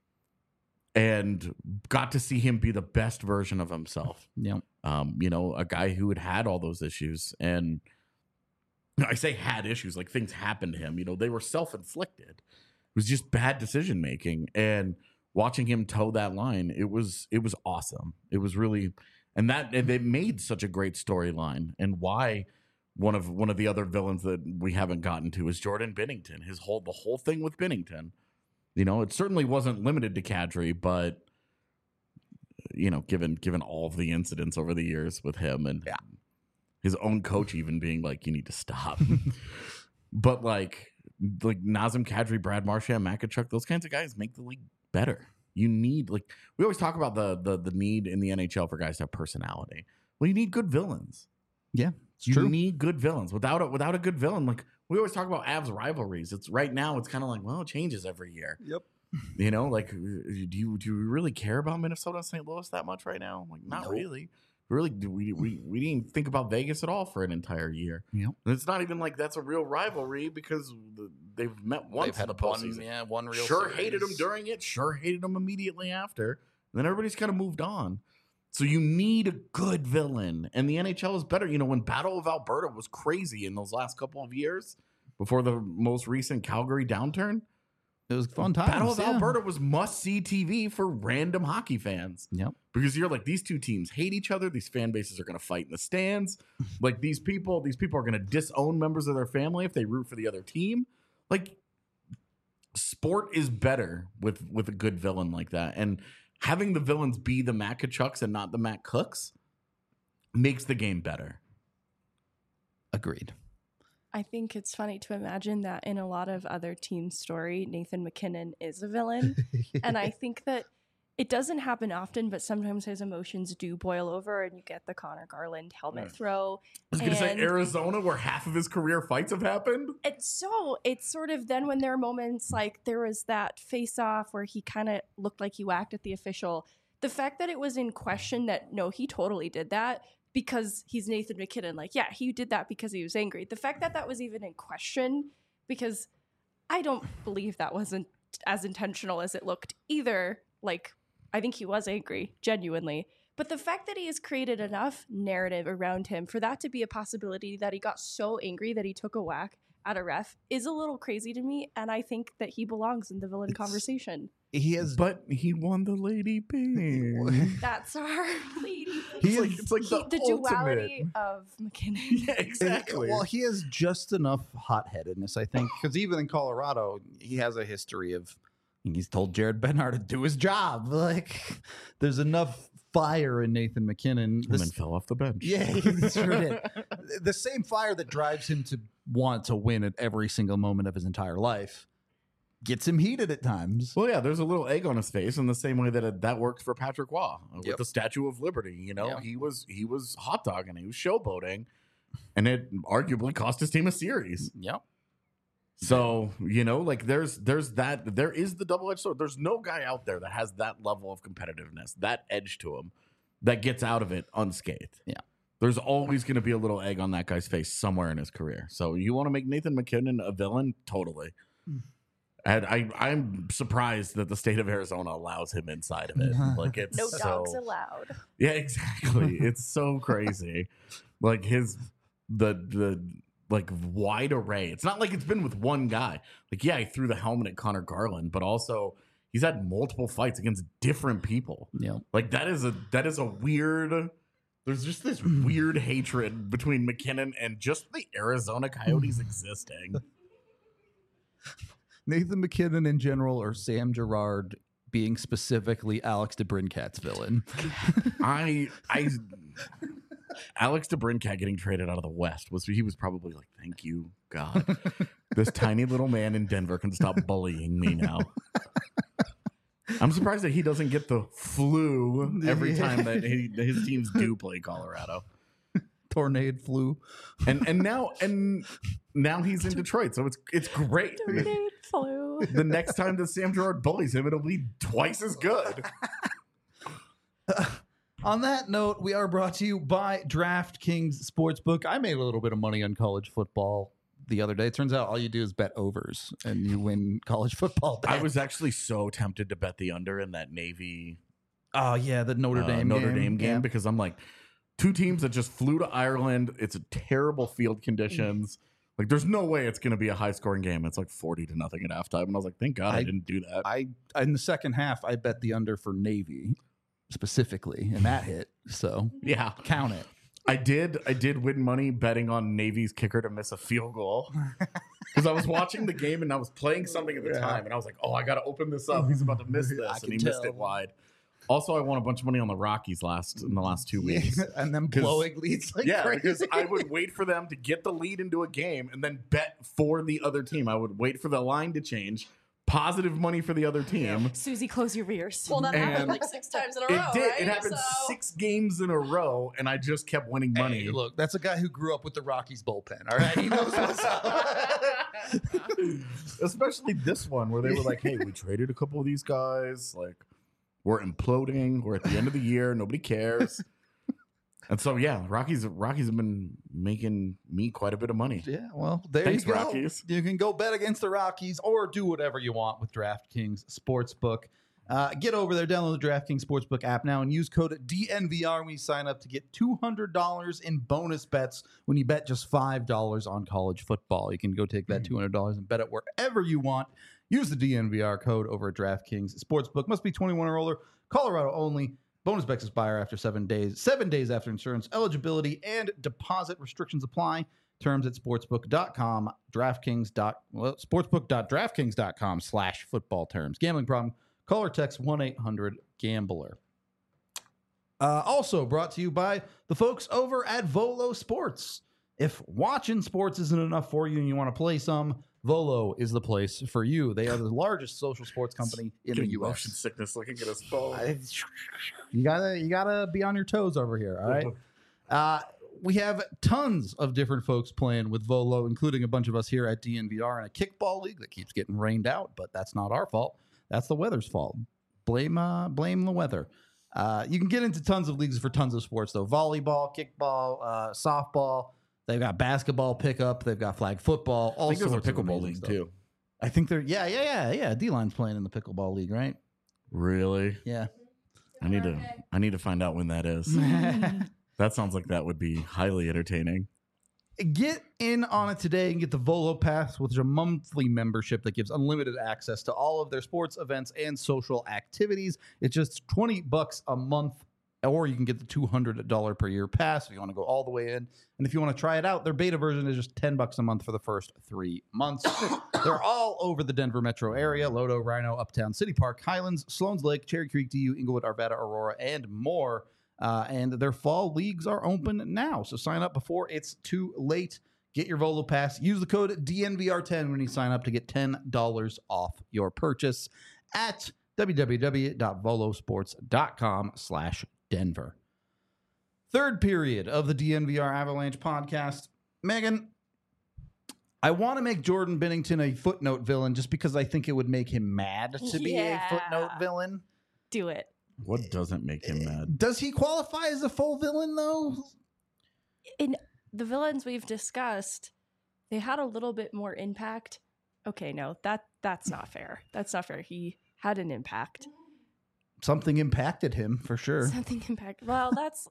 and got to see him be the best version of himself. Yep. Um, you know, a guy who had had all those issues, and I say had issues, like things happened to him. You know, they were self-inflicted. It was just bad decision making, and watching him toe that line, it was it was awesome. It was really, and that and they made such a great storyline. And why one of one of the other villains that we haven't gotten to is Jordan Binnington. His whole the whole thing with Binnington. You know, it certainly wasn't limited to Kadri, but you know, given given all of the incidents over the years with him and Yeah. his own coach even being like, you need to stop. But like like Nazem Kadri, Brad Marchand, Matt Tkachuk, those kinds of guys make the league better. You need, like, we always talk about the the the need in the N H L for guys to have personality. Well, you need good villains. Yeah, it's You true. need good villains. Without a, without a good villain, like we always talk about Avs rivalries. It's right now. It's kind of like, well, it changes every year. Yep. You know, like, do you do you really care about Minnesota and Saint Louis that much right now? Like, not Nope. really. Really, do we, we we didn't think about Vegas at all for an entire year. Yep. And it's not even like that's a real rivalry because the- they've met once They've had in the one, postseason. yeah, one real. Sure series. hated him during it. Sure hated him immediately after. And then everybody's kind of moved on. So you need a good villain, and the N H L is better. You know, when Battle of Alberta was crazy in those last couple of years before the most recent Calgary downturn, It was fun times. Battle of yeah. Alberta was must-see T V for random hockey fans. Yep. Because you're like, these two teams hate each other. These fan bases are going to fight in the stands. Like these people, these people are going to disown members of their family if they root for the other team. Like, sport is better with with a good villain like that, and having the villains be the Matt Tkachuks and not the Matt Cooks makes the game better. Agreed. I think it's funny to imagine that in a lot of other team story, Nathan McKinnon is a villain. And I think that it doesn't happen often, but sometimes his emotions do boil over and you get the Connor Garland helmet Right. throw. I was going to say And- Arizona, where half of his career fights have happened. And so it's sort of then when there are moments like there was that face off where he kind of looked like he whacked at the official. The fact that it was in question that no, he totally did that because he's Nathan McKinnon. Like, yeah, he did that because he was angry. The fact that that was even in question, because I don't believe that wasn't as intentional as it looked either. Like, I think he was angry, genuinely. But the fact that he has created enough narrative around him for that to be a possibility that he got so angry that he took a whack at a ref is a little crazy to me. And I think that he belongs in the villain It's- conversation. He has. But he won the Lady Ping. That's our lady. It's like, it's like He- the, the ultimate. duality of McKinnon. Yeah, exactly. Well, he has just enough hot-headedness, I think, because even in Colorado, he has a history of. He's told Jared Bednar to do his job. Like, there's enough fire in Nathan McKinnon. and This- then fell off the bench. Yeah, he sure did. The same fire that drives him to want to win at every single moment of his entire life gets him heated at times. Well, yeah, there's a little egg on his face in the same way that it, that worked for Patrick Waugh with Yep. the Statue of Liberty. You know, Yeah. he was he was hot dogging, he was showboating, and it arguably cost his team a series. Yep. So you know, like there's there's that there is the double edged sword. There's no guy out there that has that level of competitiveness, that edge to him, that gets out of it unscathed. Yeah. There's always going to be a little egg on that guy's face somewhere in his career. So you want to make Nathan McKinnon a villain? Totally. And I, I'm surprised that the state of Arizona allows him inside of it. Like it's No so, dogs allowed. yeah, exactly. It's so crazy. Like his the the like wide array. It's not like it's been with one guy. Like yeah, he threw the helmet at Connor Garland, but also he's had multiple fights against different people. Yep. Like that is a that is a weird. There's just this weird hatred between McKinnon and just the Arizona Coyotes existing. Nathan McKinnon in general or Sam Girard being specifically Alex DeBrincat's villain. I I Alex DeBrincat getting traded out of the West was he was probably like, thank you, God. This tiny little man in Denver can stop bullying me now. I'm surprised that he doesn't get the flu every time that he, his teams do play Colorado. tornado flu. and and now and now he's in Detroit, so it's it's great. Tornado flu. The next time that Sam Gerard bullies him, it'll be twice as good. On that note, we are brought to you by DraftKings Sportsbook. I made a little bit of money on college football the other day. It turns out all you do is bet overs and you win college football bets. I was actually so tempted to bet the under in that Navy Oh yeah, the Notre uh, Dame Notre game. Dame game Yeah. because I'm like, two teams that just flew to Ireland. It's a terrible field conditions. Like, there's no way it's going to be a high scoring game. It's like forty to nothing at halftime, and I was like, thank God I, I- didn't do that. I in the second half I bet the under for Navy specifically, and that hit. So yeah, count it. I did. I did win money betting on Navy's kicker to miss a field goal because I was watching the game and I was playing something at the Yeah. time, and I was like, "Oh, I got to open this up. He's about to miss I this," can and he missed tell. it wide. Also, I won a bunch of money on the Rockies last in the last two weeks. and then 'Cause- blowing leads like yeah, crazy. because I would wait for them to get the lead into a game and then bet for the other team. I would wait for the line to change, positive money for the other team. Susie, close your ears. Well, that And happened like six times in a It row, did. right? It happened So- six games in a row, and I just kept winning money. Hey, look, that's a guy who grew up with the Rockies bullpen. All right, he knows what's up. Especially this one where they were like, "Hey, we traded a couple of these guys. Like, we're imploding. We're at the end of the year. Nobody cares." And so, yeah, Rockies Rockies have been making me quite a bit of money. Yeah, well, there Thanks, you go. Rockies. You can go bet against the Rockies or do whatever you want with DraftKings Sportsbook. Uh, get over there, download the DraftKings Sportsbook app now, and use code D N V R when you sign up to get two hundred dollars in bonus bets when you bet just five dollars on college football. You can go take that two hundred dollars and bet it wherever you want. Use the D N V R code over at DraftKings Sportsbook. Must be twenty-one or older. Colorado only. Bonus bets expire after seven days. Seven days after insurance eligibility and deposit restrictions apply. Terms at sportsbook dot com, DraftKings. Dot, well, sportsbook.draftkings.com slash football terms. Gambling problem? Call or text one eight hundred gambler. Uh, also brought to you by the folks over at Volo Sports. If watching sports isn't enough for you and you want to play some, Volo is the place for you. They are the largest social sports company in the Getting U motion S. sickness looking at his phone. I- You gotta, you gotta be on your toes over here. All right. Uh, we have tons of different folks playing with Volo, including a bunch of us here at D N V R in a kickball league that keeps getting rained out, but that's not our fault. That's the weather's fault. Blame, uh, blame the weather. Uh, you can get into tons of leagues for tons of sports, though. Volleyball, kickball, uh, softball. They've got basketball pickup. They've got flag football. All I think there's a sorts of pickleball amazing league stuff. too. I think they're yeah, yeah, yeah, yeah. D-Line's playing in the pickleball league, right? Really? Yeah. I need to. I need to find out when that is. That sounds like that would be highly entertaining. Get in on it today and get the Volo Pass, which is a monthly membership that gives unlimited access to all of their sports events and social activities. It's just twenty bucks a month, or you can get the two hundred dollars per year pass if you want to go all the way in. And if you want to try it out, their beta version is just ten bucks a month for the first three months. They're all over the Denver metro area: Lodo, Rhino, Uptown, City Park, Highlands, Sloan's Lake, Cherry Creek, D U, Inglewood, Arvada, Aurora, and more. Uh, and their fall leagues are open now. So sign up before it's too late. Get your Volo Pass. Use the code D N V R ten when you sign up to get ten dollars off your purchase at www.volosports.com slash Denver. Third period of the D N V R Avalanche podcast. Megan, I want to make Jordan Bennington a footnote villain just because I think it would make him mad to be Yeah. a footnote villain. Do it. What doesn't make him mad? Does he qualify as a full villain, though? In the villains we've discussed, they had a little bit more impact. Okay, no, that that's not fair. That's not fair. He had an impact. Something impacted him for sure. Something impact. Well, that's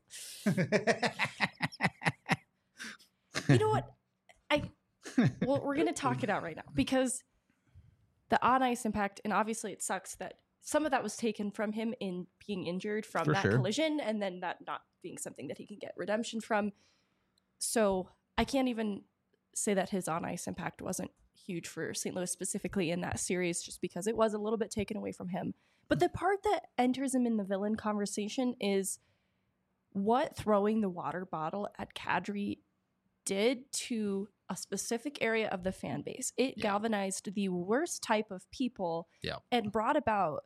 you know what? I well, we're gonna talk it out right now because the on ice impact, and obviously it sucks that some of that was taken from him in being injured from For that sure. collision, and then that not being something that he can get redemption from. So I can't even say that his on ice impact wasn't huge for Saint Louis specifically in that series, just because it was a little bit taken away from him. But the part that enters him in the villain conversation is what throwing the water bottle at Kadri did to a specific area of the fan base. It Yeah. galvanized the worst type of people Yeah. and brought about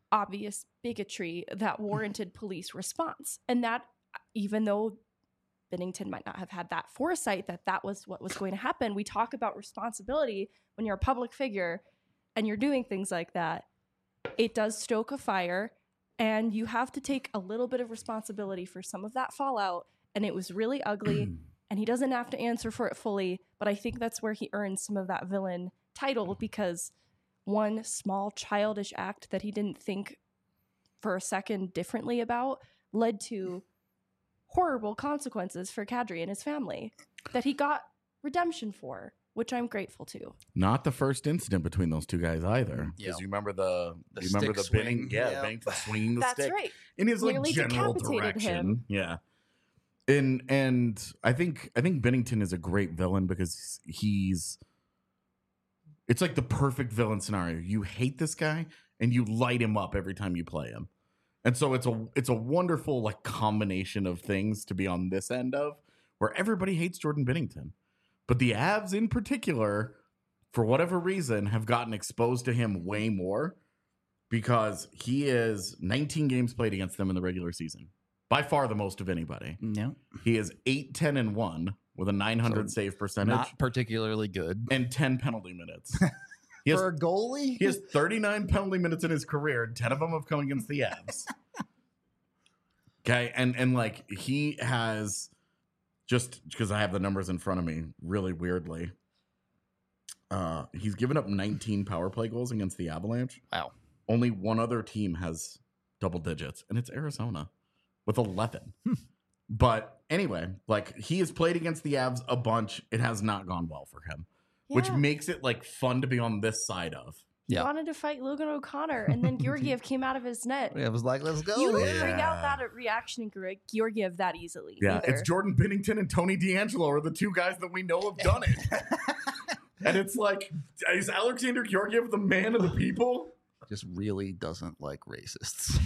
obvious bigotry that warranted police response. And that, even though Binnington might not have had that foresight that that was what was going to happen. We talk about responsibility when you're a public figure and you're doing things like that. It does stoke a fire, and you have to take a little bit of responsibility for some of that fallout. And it was really ugly, and he doesn't have to answer for it fully. But I think that's where he earns some of that villain title, because one small childish act that he didn't think for a second differently about led to horrible consequences for Kadri and his family that he got redemption for, which I'm grateful to. Not the first incident between those two guys either. Because Yeah. you remember the, The you remember the stick Binning, swing. yeah, Yeah. Bennington swinging the That's stick right. in his like Nearly general decapitated direction. him. Yeah, and and I think I think Binnington is a great villain because he's. It's like the perfect villain scenario. You hate this guy and you light him up every time you play him. And so it's a it's a wonderful like combination of things to be on this end of, where everybody hates Jordan Binnington. But the Avs in particular, for whatever reason, have gotten exposed to him way more because he is nineteen games played against them in the regular season. By far the most of anybody. No, He is eight ten and one with a nine hundred So save percentage not particularly good. and ten penalty minutes. He has, For a goalie? he has thirty-nine penalty minutes in his career, and ten of them have come against the Avs. Okay, and and like he has, just because I have the numbers in front of me, really weirdly, uh, he's given up nineteen power play goals against the Avalanche. Wow. Only one other team has double digits, and it's Arizona with eleven. But anyway, like he has played against the Avs a bunch. It has not gone well for him, which Yeah. makes it like fun to be on this side of. He Yeah. wanted to fight Logan O'Connor, and then Georgiev came out of his net. Yeah, I was like, let's go. You don't Yeah. bring out that reaction in Gre- Georgiev that easily. Yeah, either. it's Jordan Binnington and Tony D'Angelo are the two guys that we know have done it. And it's like, is Alexander Georgiev the man of the people? Just really doesn't like racists.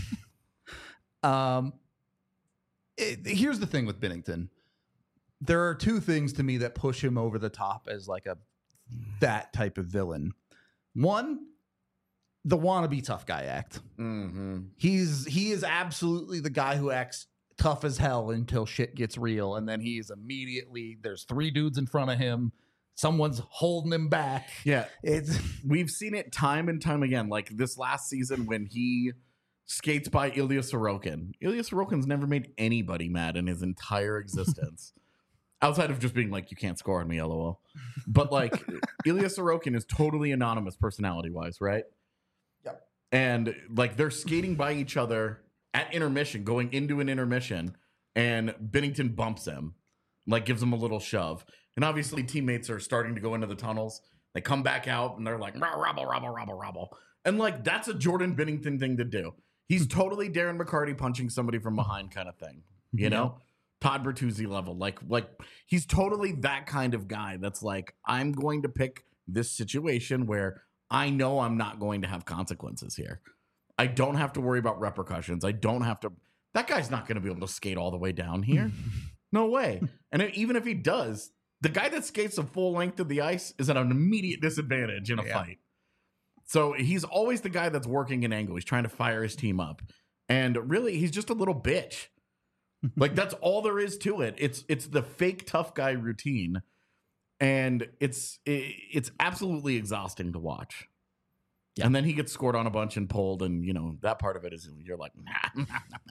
um, it- here's the thing with Binnington. There are two things to me that push him over the top as like a that type of villain. One, the wannabe tough guy act. Mm-hmm. He's he is absolutely the guy who acts tough as hell until shit gets real, and then he's immediately there's three dudes in front of him. Someone's holding him back. Yeah, It's we've seen it time and time again. Like this last season when he skates by Ilya Sorokin. Ilya Sorokin's never made anybody mad in his entire existence. Outside of just being like, you can't score on me, lol. But like, Ilya Sorokin is totally anonymous personality wise, right? Yep. And like, they're skating by each other at intermission, going into an intermission, and Binnington bumps him, like gives him a little shove. And obviously, teammates are starting to go into the tunnels. They come back out and they're like, robble, robble, robble, robble. And like, that's a Jordan Binnington thing to do. He's totally Darren McCarty punching somebody from behind kind of thing, you know? Todd Bertuzzi level. Like, like he's totally that kind of guy that's like, I'm going to pick this situation where I know I'm not going to have consequences here. I don't have to worry about repercussions. I don't have to. That guy's not going to be able to skate all the way down here. No way. And even if he does, the guy that skates the full length of the ice is at an immediate disadvantage in a Yeah. fight. So he's always the guy that's working an angle. He's trying to fire his team up. And really, he's just a little bitch. Like that's all there is to it. It's it's the fake tough guy routine, and it's it, it's absolutely exhausting to watch. Yeah. And then he gets scored on a bunch and pulled, and you know that part of it is you're like, nah.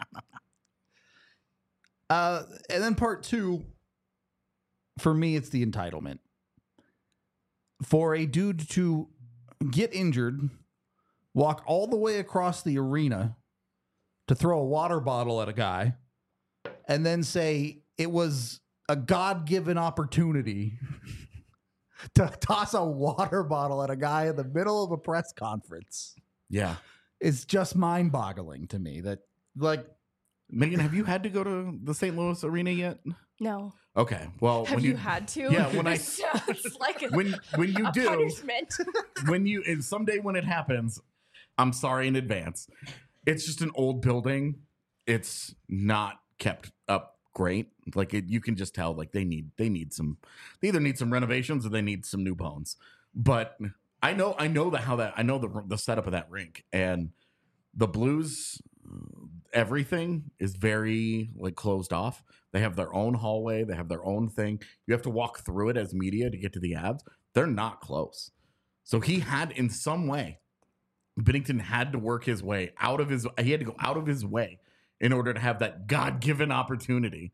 Uh, and then part two, for me, it's the entitlement. For a dude to get injured, walk all the way across the arena to throw a water bottle at a guy, and then say it was a God-given opportunity to toss a water bottle at a guy in the middle of a press conference. Yeah, It's just mind-boggling to me that, like, Megan, have you had to go to the Saint Louis arena yet? No. Okay, well, Have when you, you, had to? Yeah, when I- It sounds like a, when when you a do punishment. when you and someday when it happens, I'm sorry in advance. It's just an old building. It's not kept up great. Like it, you can just tell like they need they need some they either need some renovations or they need some new bones. But I know I know the how that I know the the setup of that rink, and the Blues, everything is very like closed off. They They have their own hallway. They have their own thing. You have to walk through it as media to get to the Avs. They're not close. So he had, in some way, Binnington had to work his way out of his, he had to go out of his way in order to have that God-given opportunity.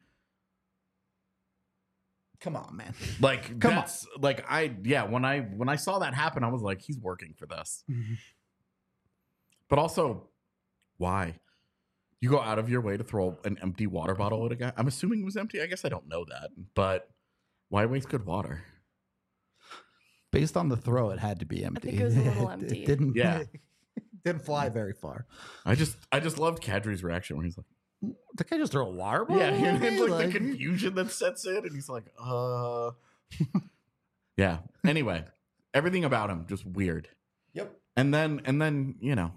Come on, man. Like, Come that's, like, I, yeah, when I, when I saw that happen, I was like, he's working for this. But also, why? You go out of your way to throw an empty water bottle at a guy? I'm assuming it was empty. I guess I don't know that. But why waste good water? Based on the throw, it had to be empty. think it was a little It- empty. It didn't, Yeah. didn't fly very far. I just I just loved Kadri's reaction where he's like, The guy just throw a water bottle? yeah, and at then, me? like, the confusion that sets in, and he's like, uh, yeah. Anyway, everything about him just weird. Yep. And then and then you know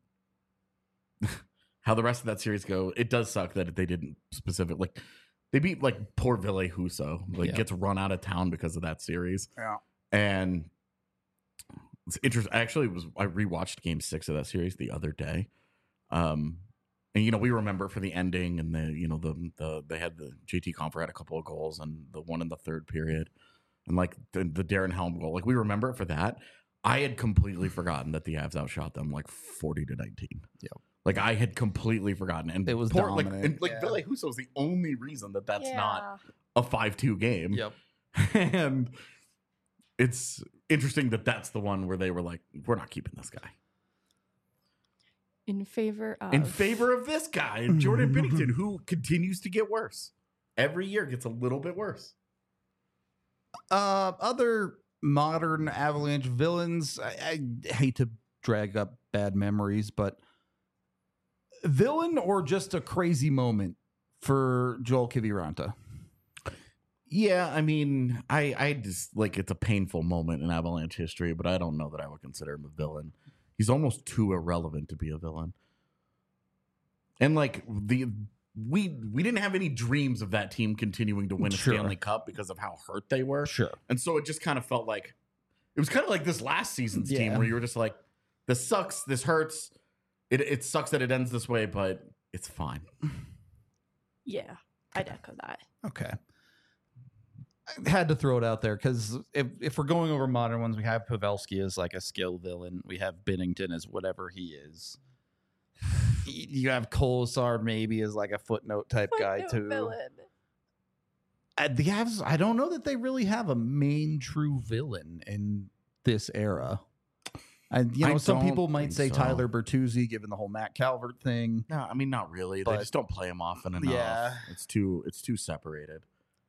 how the rest of that series go. It does suck that they didn't specific like they beat like poor Ville Husso, like Yeah. gets run out of town because of that series. Yeah. And it's interesting. Actually, it was I rewatched Game Six of that series the other day. Um, and you know we remember for the ending and the you know the the they had the J T Compher had a couple of goals and the one in the third period, and like the, the Darren Helm goal. Like we remember it for that. I had completely forgotten that the Avs outshot them like forty to nineteen. Yep. Like I had completely forgotten, and It was poor, like dominant. and like Yeah. Ville Husso is the only reason that that's Yeah. not a five two game. Yep. And it's interesting that that's the one where they were like, we're not keeping this guy. In favor of In favor of this guy, Jordan Binnington, who continues to get worse. Every year gets a little bit worse. Uh, other modern Avalanche villains. I, I hate to drag up bad memories, but villain or just a crazy moment for Joel Kiviranta? Yeah, I mean, I, I just like it's a painful moment in Avalanche history, but I don't know that I would consider him a villain. He's almost too irrelevant to be a villain. And like the we we didn't have any dreams of that team continuing to win a Sure. Stanley Cup because of how hurt they were. Sure. And so it just kind of felt like it was kind of like this last season's team Yeah. where you were just like, this sucks, this hurts. It it sucks that it ends this way, but it's fine. yeah, I'd echo that. Okay. I had to throw it out there because if, if we're going over modern ones, we have Pavelski as like a skill villain. We have Binnington as whatever he is. Y- You have Kolesar maybe as like a footnote type guy Footnote too. villain. Uh, the Avs, I don't know that they really have a main true villain in this era. And you know, I some don't people might think say so. Tyler Bertuzzi, given the whole Matt Calvert thing. No, I mean not really. But- they just don't play him often enough. Yeah. It's too it's too separated.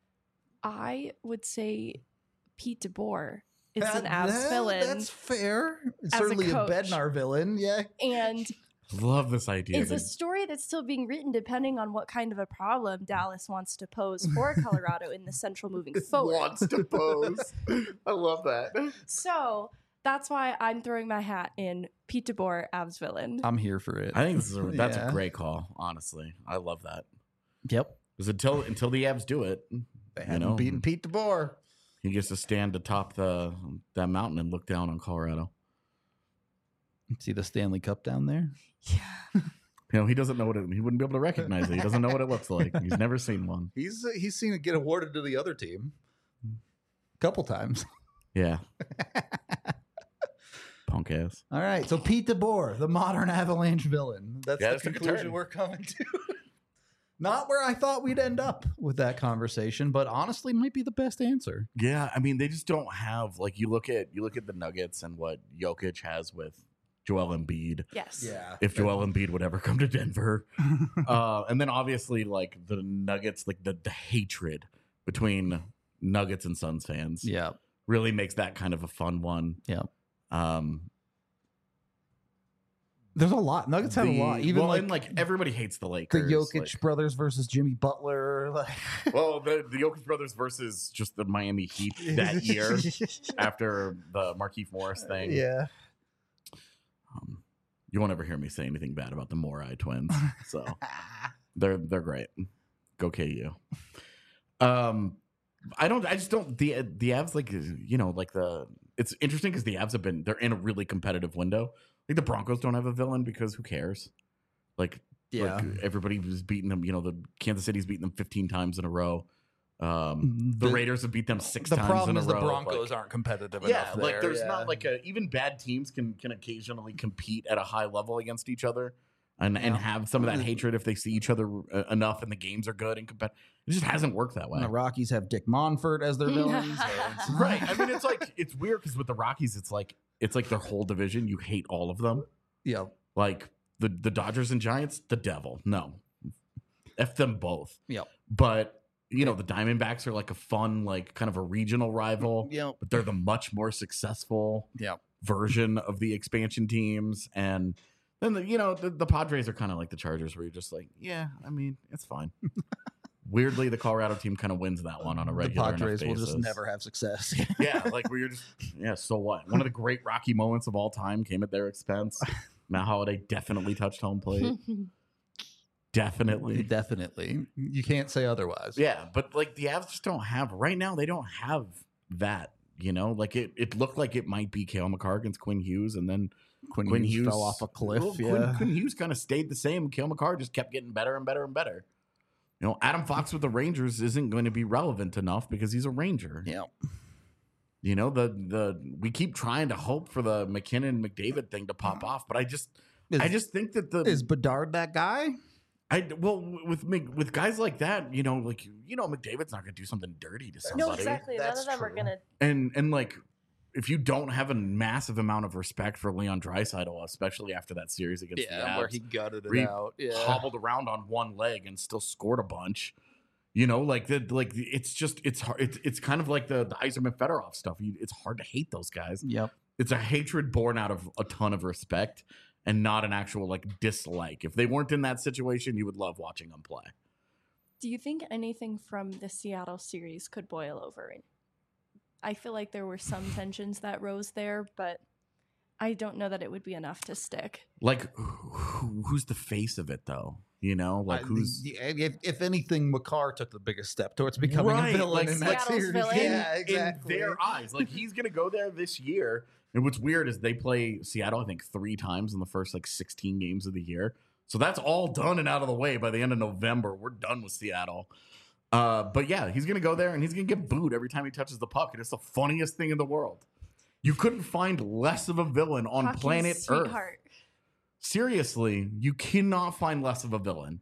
I would say Pete DeBoer is an That- Avs that- villain, That's fair. It's As a certainly a, coach. Bednar villain. Yeah. and Love this idea. it's a that- story that's still being written depending on what kind of a problem Dallas wants to pose for Colorado in the Central moving forward. Wants to pose. I love that. So that's why I'm throwing my hat in Pete DeBoer, Avs villain. I'm here for it. I think this is a, that's Yeah. a great call. Honestly, I love that. Yep. Because until until the Avs do it, They you haven't know, beaten Pete DeBoer. he gets to stand atop the that mountain and look down on Colorado. See the Stanley Cup down there? Yeah. You know, he doesn't know what it. He wouldn't be able to recognize it. He doesn't know what it looks like. He's never seen one. He's uh, he's seen it get awarded to the other team a couple times. Yeah. Punk ass. All right, so Pete DeBoer, the modern Avalanche villain. That's Yeah, the this took a conclusion turn. we're coming to. Not where I thought we'd end up with that conversation, but honestly, might be the best answer. Yeah, I mean, they just don't have like you look at you look at the Nuggets and what Jokic has with Joel Embiid. Yes. If Joel Embiid would ever come to Denver, uh, and then obviously like the Nuggets, like the the hatred between Nuggets and Suns fans, Yeah, really makes that kind of a fun one. yeah. Um, There's a lot. Nuggets have a the- lot. Even well, like, and like everybody hates the the Lakers. Jokic like- brothers versus Jimmy Butler. Like, well, the the Jokic brothers versus just the Miami Heat that year after the Markieff Morris thing. yeah. Um, you won't ever hear me say anything bad about the Morai twins. So they're they're great. Go K U. Um, I don't. I just don't. The the Avs like you know like the. It's interesting because the Avs have been. They're in a really competitive window. Like the Broncos don't have a villain because who cares? Like Yeah. Like everybody was beating them. You know, the Kansas City's beaten them fifteen times in a row. Um, the, The- Raiders have beat them six the times problem in a is row. the Broncos Like, aren't competitive yeah, enough. like there, there's yeah. not like a even bad teams can can occasionally compete at a high level against each other. And, and Yeah. have some of that hatred if they see each other uh, enough and the games are good and competitive. It just hasn't worked that way. And the Rockies have Dick Monfort as their villain. so it's- Right. I mean, it's like it's weird because with the Rockies, it's like it's like their whole division. You hate all of them. Yeah. Like the the Dodgers and Giants, the devil. No, f them both. Yep. But you know the Diamondbacks are like a fun, like kind of a regional rival. Yep. But they're the much more successful Yep. version of the expansion teams, and then the, you know the, the Padres are kind of like the Chargers, where you're just like, yeah, I mean, it's fine. Weirdly, the Colorado team kind of wins that one on a The regular enough Padres will just basis. never have success. Yeah, like where you're just yeah. So what? One of the great Rocky moments of all time came at their expense. Matt Holliday definitely touched home plate. Definitely. Definitely. You can't say otherwise. Yeah, but like the Avs just don't have right now. They don't have that. You know, like it. It looked like it might be Cale Makar against Quinn Hughes, and then Quinn, Quinn Hughes, Hughes fell off a cliff. well, yeah. Quinn, Quinn Hughes kind of stayed the same. Cale Makar just kept getting better and better and better. You know, Adam Fox with the Rangers isn't going to be relevant enough because he's a Ranger. yeah. You know, the the we keep trying to hope for the McKinnon McDavid thing to pop off, but I just Is, I just think that the is Bedard that guy? I well with Mc- with guys like that, you know, like you know, McDavid's not going to do something dirty to somebody. No, exactly. None That's of them are true. gonna. And and like if you don't have a massive amount of respect for Leon Draisaitl, especially after that series against the Avs, where he gutted it where he out. Yeah. hobbled around on one leg and still scored a bunch. You know, like the like it's just it's hard. It's it's kind of like the the Yzerman Fedorov stuff. You, it's hard to hate those guys. Yep. It's a hatred born out of a ton of respect and not an actual like dislike. If they weren't in that situation, you would love watching them play. Do you think anything from the Seattle series could boil over? I feel like there were some tensions that rose there, but I don't know that it would be enough to stick. Like, who, who's the face of it though? You know, like I- who's the- if, if anything, Makar took the biggest step towards becoming Right, a villain like in that Seattle's series. villain. Yeah, in exactly. their eyes. Like he's gonna go there this year. And what's weird is they play Seattle, I think, three times in the first like sixteen games of the year. So that's all done and out of the way by the end of November. We're done with Seattle. Uh, but yeah, he's gonna go there and he's gonna get booed every time he touches the puck. And it's the funniest thing in the world. You couldn't find less of a villain on Hockey's planet Earth. sweetheart. Seriously, you cannot find less of a villain.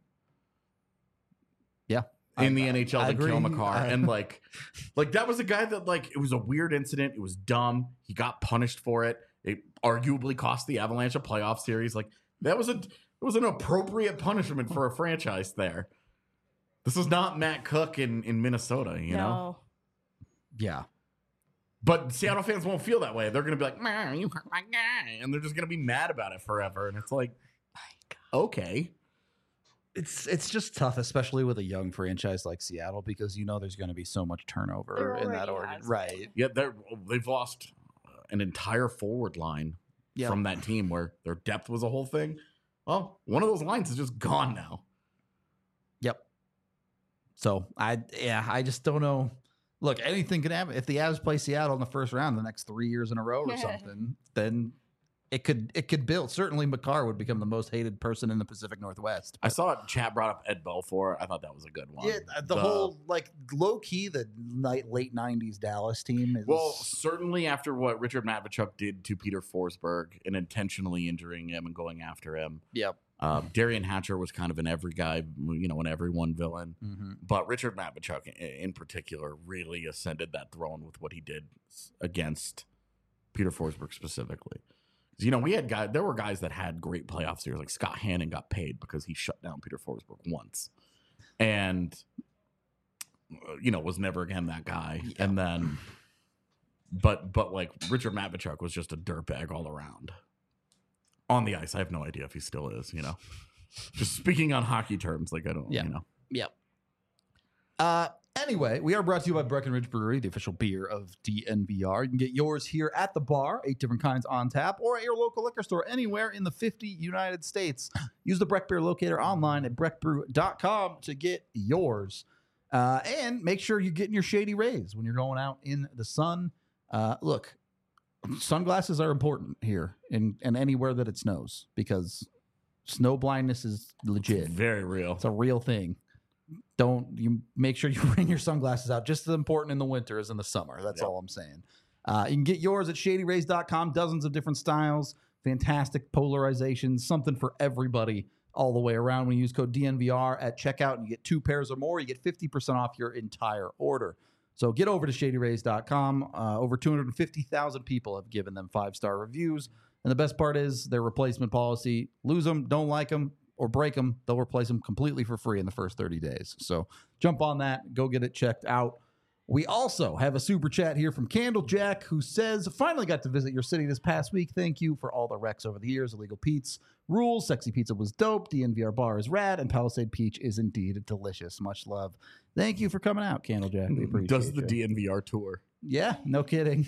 Yeah. In I- the N H L I than Cale agree. Makar. I- And like, like that was a guy that like it was a weird incident. It was dumb. He got punished for it. It arguably cost the Avalanche a playoff series. Like that was a it was an appropriate punishment for a franchise there. This is not Matt Cook in, in Minnesota, you know? No. Yeah. But Seattle fans won't feel that way. They're gonna be like, man, you hurt my guy. And they're just gonna be mad about it forever. And it's like, okay. It's it's just tough, especially with a young franchise like Seattle, because you know there's going to be so much turnover There in that already order. has been. Right. Yeah, they're they've lost an entire forward line Yeah. from that team where their depth was a whole thing. Well, one of those lines is just gone now. Yep. So I yeah, I just don't know. Look, anything can happen. If the Avs play Seattle in the first round the next three years in a row or something, then it could it could build. Certainly Makar would become the most hated person in the Pacific Northwest. I saw chat brought up Ed Belfour. I thought that was a good one. Yeah, the, whole like low key the night, late nineties Dallas team is Well, certainly after what Richard Matvichuk did to Peter Forsberg and intentionally injuring him and going after him. Yep. Um, Darian Hatcher was kind of an every guy, you know, an everyone villain. Mm-hmm. But Richard Matvichuk i- in particular really ascended that throne with what he did s- against Peter Forsberg specifically. 'Cause, you know, we had guys, there were guys that had great playoff series, like Scott Hannon got paid because he shut down Peter Forsberg once. And, uh, you know, was never again that guy. Yeah. And then, but, but like Richard Matvichuk was just a dirtbag all around. On the ice, I have no idea if he still is, you know. Just speaking on hockey terms, like I don't, Yeah. you know. Yep. Uh, anyway, we are brought to you by Breckenridge Brewery, the official beer of D N V R. You can get yours here at the bar, eight different kinds on tap, or at your local liquor store anywhere in the fifty United States. Use the Breck Beer Locator online at breck brew dot com to get yours. Uh, and make sure you're getting your shady rays when you're going out in the sun. Uh, look, sunglasses are important here and, and anywhere that it snows because Snow blindness is legit. Very real. It's a real thing. Don't you make sure you bring your sunglasses out. Just as important in the winter as in the summer. That's Yep. all I'm saying. Uh, you can get yours at shady rays dot com. Dozens of different styles, fantastic polarizations, something for everybody all the way around. When you use code D N V R at checkout and you get two pairs or more, you get fifty percent off your entire order. So get over to shady rays dot com. Uh, over two hundred fifty thousand people have given them five-star reviews. And the best part is their replacement policy. Lose them, don't like them, or break them, they'll replace them completely for free in the first thirty days. So jump on that. Go get it checked out. We also have a super chat here from Candlejack, who says, finally got to visit your city this past week. Thank you for all the Rex over the years. Illegal Pete's rules. Sexy Pizza was dope. D N V R Bar is rad. And Palisade Peach is indeed delicious. Much love. Thank you for coming out, Candlejack. We appreciate Does the you. D N V R tour. Yeah, no kidding.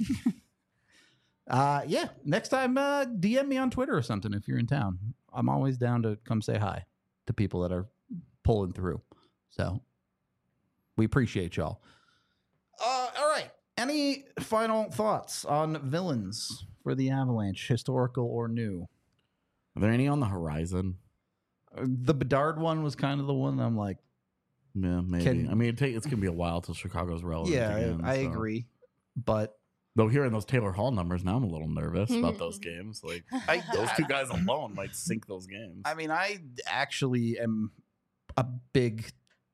uh, yeah, next time, uh, D M me on Twitter or something if you're in town. I'm always down to come say hi to people that are pulling through. So we appreciate y'all. Uh, all right. Any final thoughts on villains for the Avalanche, historical or new? Are there any on the horizon? Uh, The Bedard one was kind of the one I'm like, Yeah, maybe. Can- I mean, it take, it's going to be a while till Chicago's relevant. yeah, again, I, I so. agree. But Though hearing those Taylor Hall numbers, now I'm a little nervous about those games. Like, I, those two guys alone might sink those games. I mean, I actually am a big.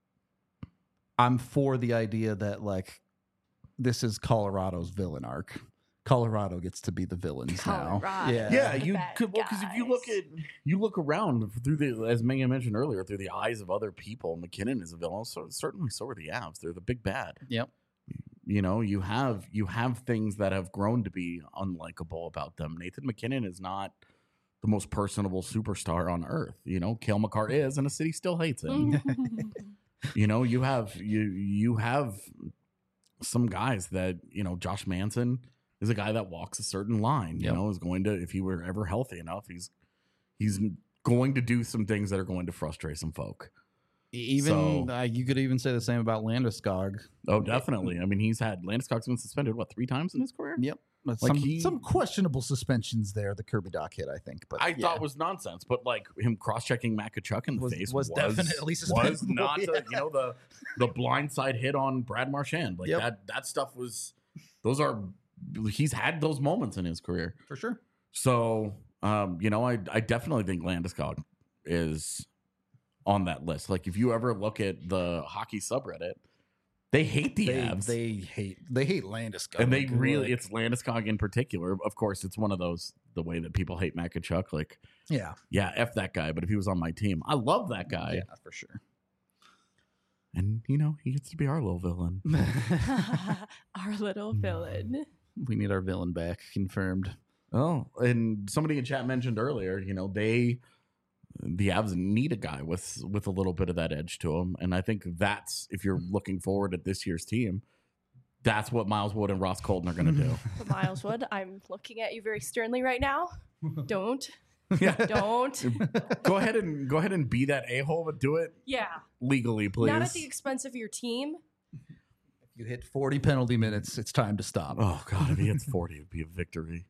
I'm for the idea that like this is Colorado's villain arc. Colorado gets to be the villains now. Colorado. Yeah, yeah, the you bad could because if you look guys. at you look around through the as Megan mentioned earlier through the eyes of other people, McKinnon is a villain. So certainly, so are the Avs. They're the big bad. Yep. You know, you have you have things that have grown to be unlikable about them. Nathan McKinnon is not the most personable superstar on earth. You know, Cale Makar is, and the city still hates him. You know, you have you you have some guys that, you know, Josh Manson is a guy that walks a certain line, you Yep. know, is going to, if he were ever healthy enough, he's he's going to do some things that are going to frustrate some folk. Even So- uh, you could even say the same about Landeskog. Oh, definitely. I mean, he's had Landeskog's been suspended what three times in his career. Yep. But Like some, he- some questionable suspensions there. The Kirby Doc hit, I think. But I yeah. thought was nonsense, but like him cross-checking Matt Kachuk in the Was- face was was, definitely was suspendable, not yeah. a, you know the the blindside hit on Brad Marchand like Yep. that that stuff was those are he's had those moments in his career. for sure. So um, you know I I definitely think Landeskog is on that list. Like if you ever look at the hockey subreddit, they hate the They, Avs. they hate they hate Landeskog. and they really, Like, it's Landeskog in particular. Of course, it's one of those the way that people hate Matt Kachuk. Like, yeah, yeah, F that guy. But if he was on my team, I love that guy. yeah, for sure. And, you know, he gets to be our little villain. Our little villain. We need our villain back, confirmed. Oh, and somebody in chat mentioned earlier, you know, they, the Avs need a guy with with a little bit of that edge to him. And I think that's, if you're looking forward at this year's team, that's what Miles Wood and Ross Colton are going to do. But Miles Wood, I'm looking at you very sternly right now. Don't. Yeah. Don't. Go ahead and go ahead and be that a-hole, but do it Yeah. legally, please. Not at the expense of your team. You hit forty penalty minutes. It's time to stop. Oh, God, if he hits forty, it'd be a victory.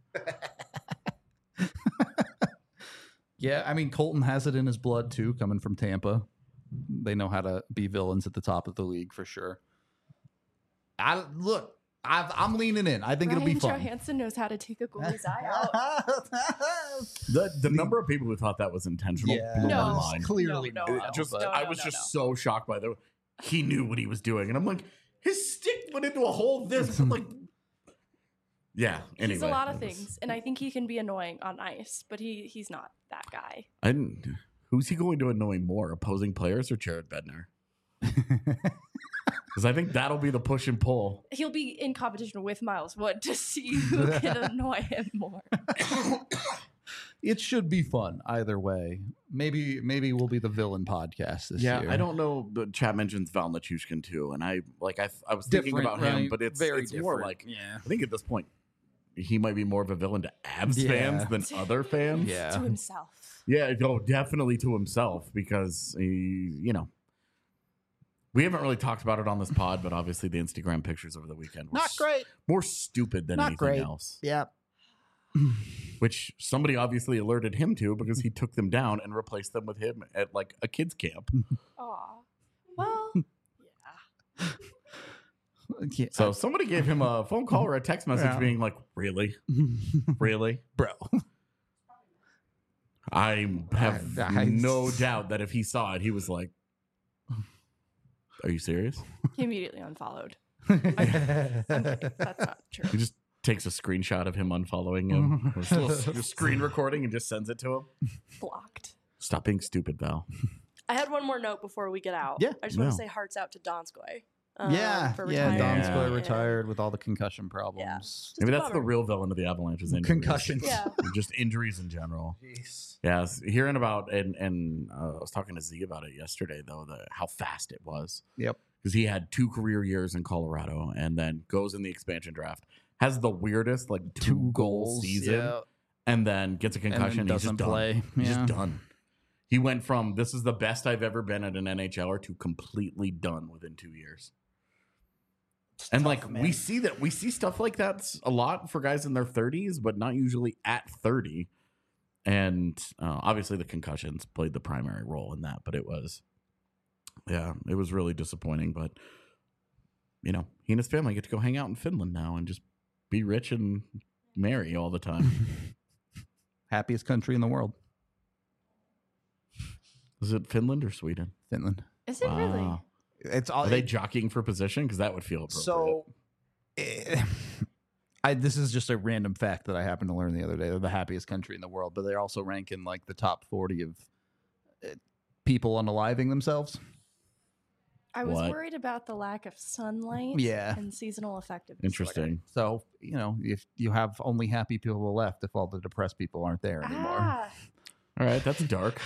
Yeah, I mean Colton has it in his blood too, coming from Tampa. They know how to be villains at the top of the league for sure. I look, I've, I'm leaning in. I think Ryan it'll be fun. Johansson knows how to take a goalie's eye out. The the number of people who thought that was intentional Yeah, blew No. my it's mind. clearly No, It no, not, no. just but- No, I no, was no, just no. so shocked by that. He knew what he was doing, and I'm like, his stick went into a hole. This I'm like, yeah. Anyway, He's a lot of it was- things, and I think he can be annoying on ice, but he he's not that guy. I didn't. Who's he going to annoy more, opposing players or Jared Bednar? Because I think that'll be the push and pull. He'll be in competition with Miles Wood to see who can annoy him more. It should be fun either way. Maybe maybe we'll be the villain podcast this Yeah, year. I don't know. The chat mentions Val Nichushkin too, and I like I I was thinking Different, about him, right? but it's Very it's more different. like yeah. I think at this point he might be more of a villain to Avs Yeah. fans than other fans. Yeah. To himself. Yeah, oh, definitely to himself because he, you know, we haven't really talked about it on this pod, but obviously the Instagram pictures over the weekend were Not s- great. more stupid than Not anything great. else. Yeah. which somebody obviously alerted him to because he took them down and replaced them with him at like a kids camp. Aw. Well, yeah. Yeah. So somebody gave him a phone call or a text message Yeah. being like, really? Really? Bro. I have I- I- no doubt that if he saw it, he was like, are you serious? He immediately unfollowed. I'm kidding. That's not true. He just takes a screenshot of him unfollowing him, with a little screen recording, and just sends it to him. Blocked. Stop being stupid, Val. I had one more note before we get out. Yeah. I just want No. to say hearts out to Donskoy. um, yeah, for yeah. retiring. Donskoy And- retired with all the concussion problems. Just Maybe a that's the bummer. real villain of the Avalanche's injuries. Concussions. Yeah. Just injuries in general. Yeah, I was hearing about and and uh, I was talking to Z about it yesterday though, the how fast it was. Yep. Because he had two career years in Colorado and then goes in the expansion draft, has the weirdest like two, Two goal goals season, yeah. and then gets a And then concussion. And he's doesn't just play. done. He's Yeah. just done. He went from this is the best I've ever been at an N H L er to completely done within two years. And tough, like man. we see that we see stuff like that a lot for guys in their thirties, but not usually at thirty. And uh, obviously the concussions played the primary role in that, but it was, yeah, it was really disappointing. But you know, he and his family get to go hang out in Finland now and just be rich and marry all the time. Happiest country in the world, Is it Finland or Sweden? Finland. Is it really? Wow. It's all Are they jockeying for position? Because that would feel appropriate. so. eh, I this is just a random fact that I happened to learn the other day. They're the happiest country in the world, but they also rank in like the top forty of eh, people unaliving themselves. I was What? worried about the lack of sunlight Yeah. and seasonal affective disorder. Interesting. So you know, if you have only happy people left, if all the depressed people aren't there anymore. Ah, All right, that's dark.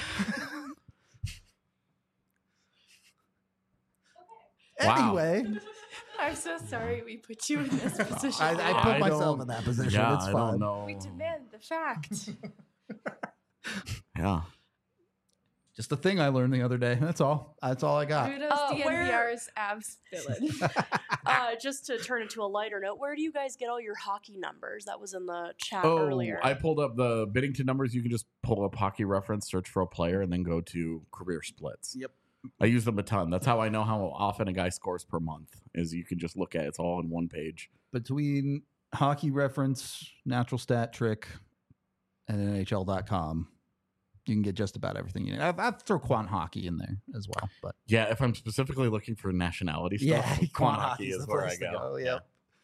Wow. Anyway, I'm so sorry we put you in this position. I, I put I myself don't- in that position. Yeah, it's I fine. don't know. we demand the fact. Yeah. Just a thing I learned the other day. That's all. That's all I got. Kudos Uh, to where- N P R's abs villain. uh, just to turn it to a lighter note, where do you guys get all your hockey numbers? That was in the chat Oh, earlier. I pulled up the Biddington numbers. You can just pull up hockey reference, search for a player, and then go to career splits. Yep. I use them a ton. That's how I know how often a guy scores per month. Is you can just look at it. It's all in one page. Between Hockey Reference, Natural Stat Trick, and N H L dot com, you can get just about everything you need. I've, I've throw Quant Hockey in there as well, but Yeah, if I'm specifically looking for nationality stuff, Yeah, Quant Quant Hockey Hockey's is the where I place to go. go, yep.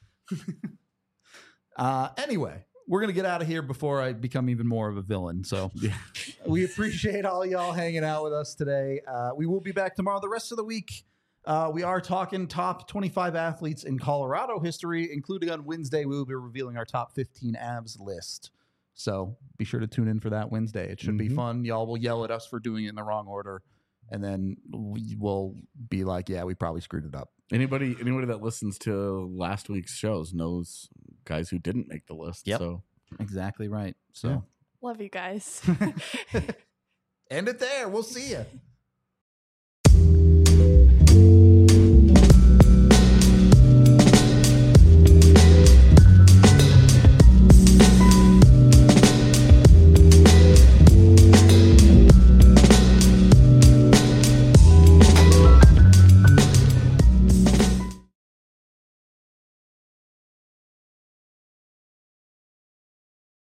uh, anyway, we're gonna get out of here before I become even more of a villain. So Yeah. we appreciate all y'all hanging out with us today. Uh, we will be back tomorrow. The rest of the week, uh, we are talking top twenty-five athletes in Colorado history, including on Wednesday, we will be revealing our top fifteen Avs list. So be sure to tune in for that Wednesday. It should be Mhm. fun. Y'all will yell at us for doing it in the wrong order. And then we will be like, yeah, we probably screwed it up. Anybody, anybody that listens to last week's shows knows guys who didn't make the list. Yep. So Exactly right. So Yeah. Love you guys. end it there. We'll see you.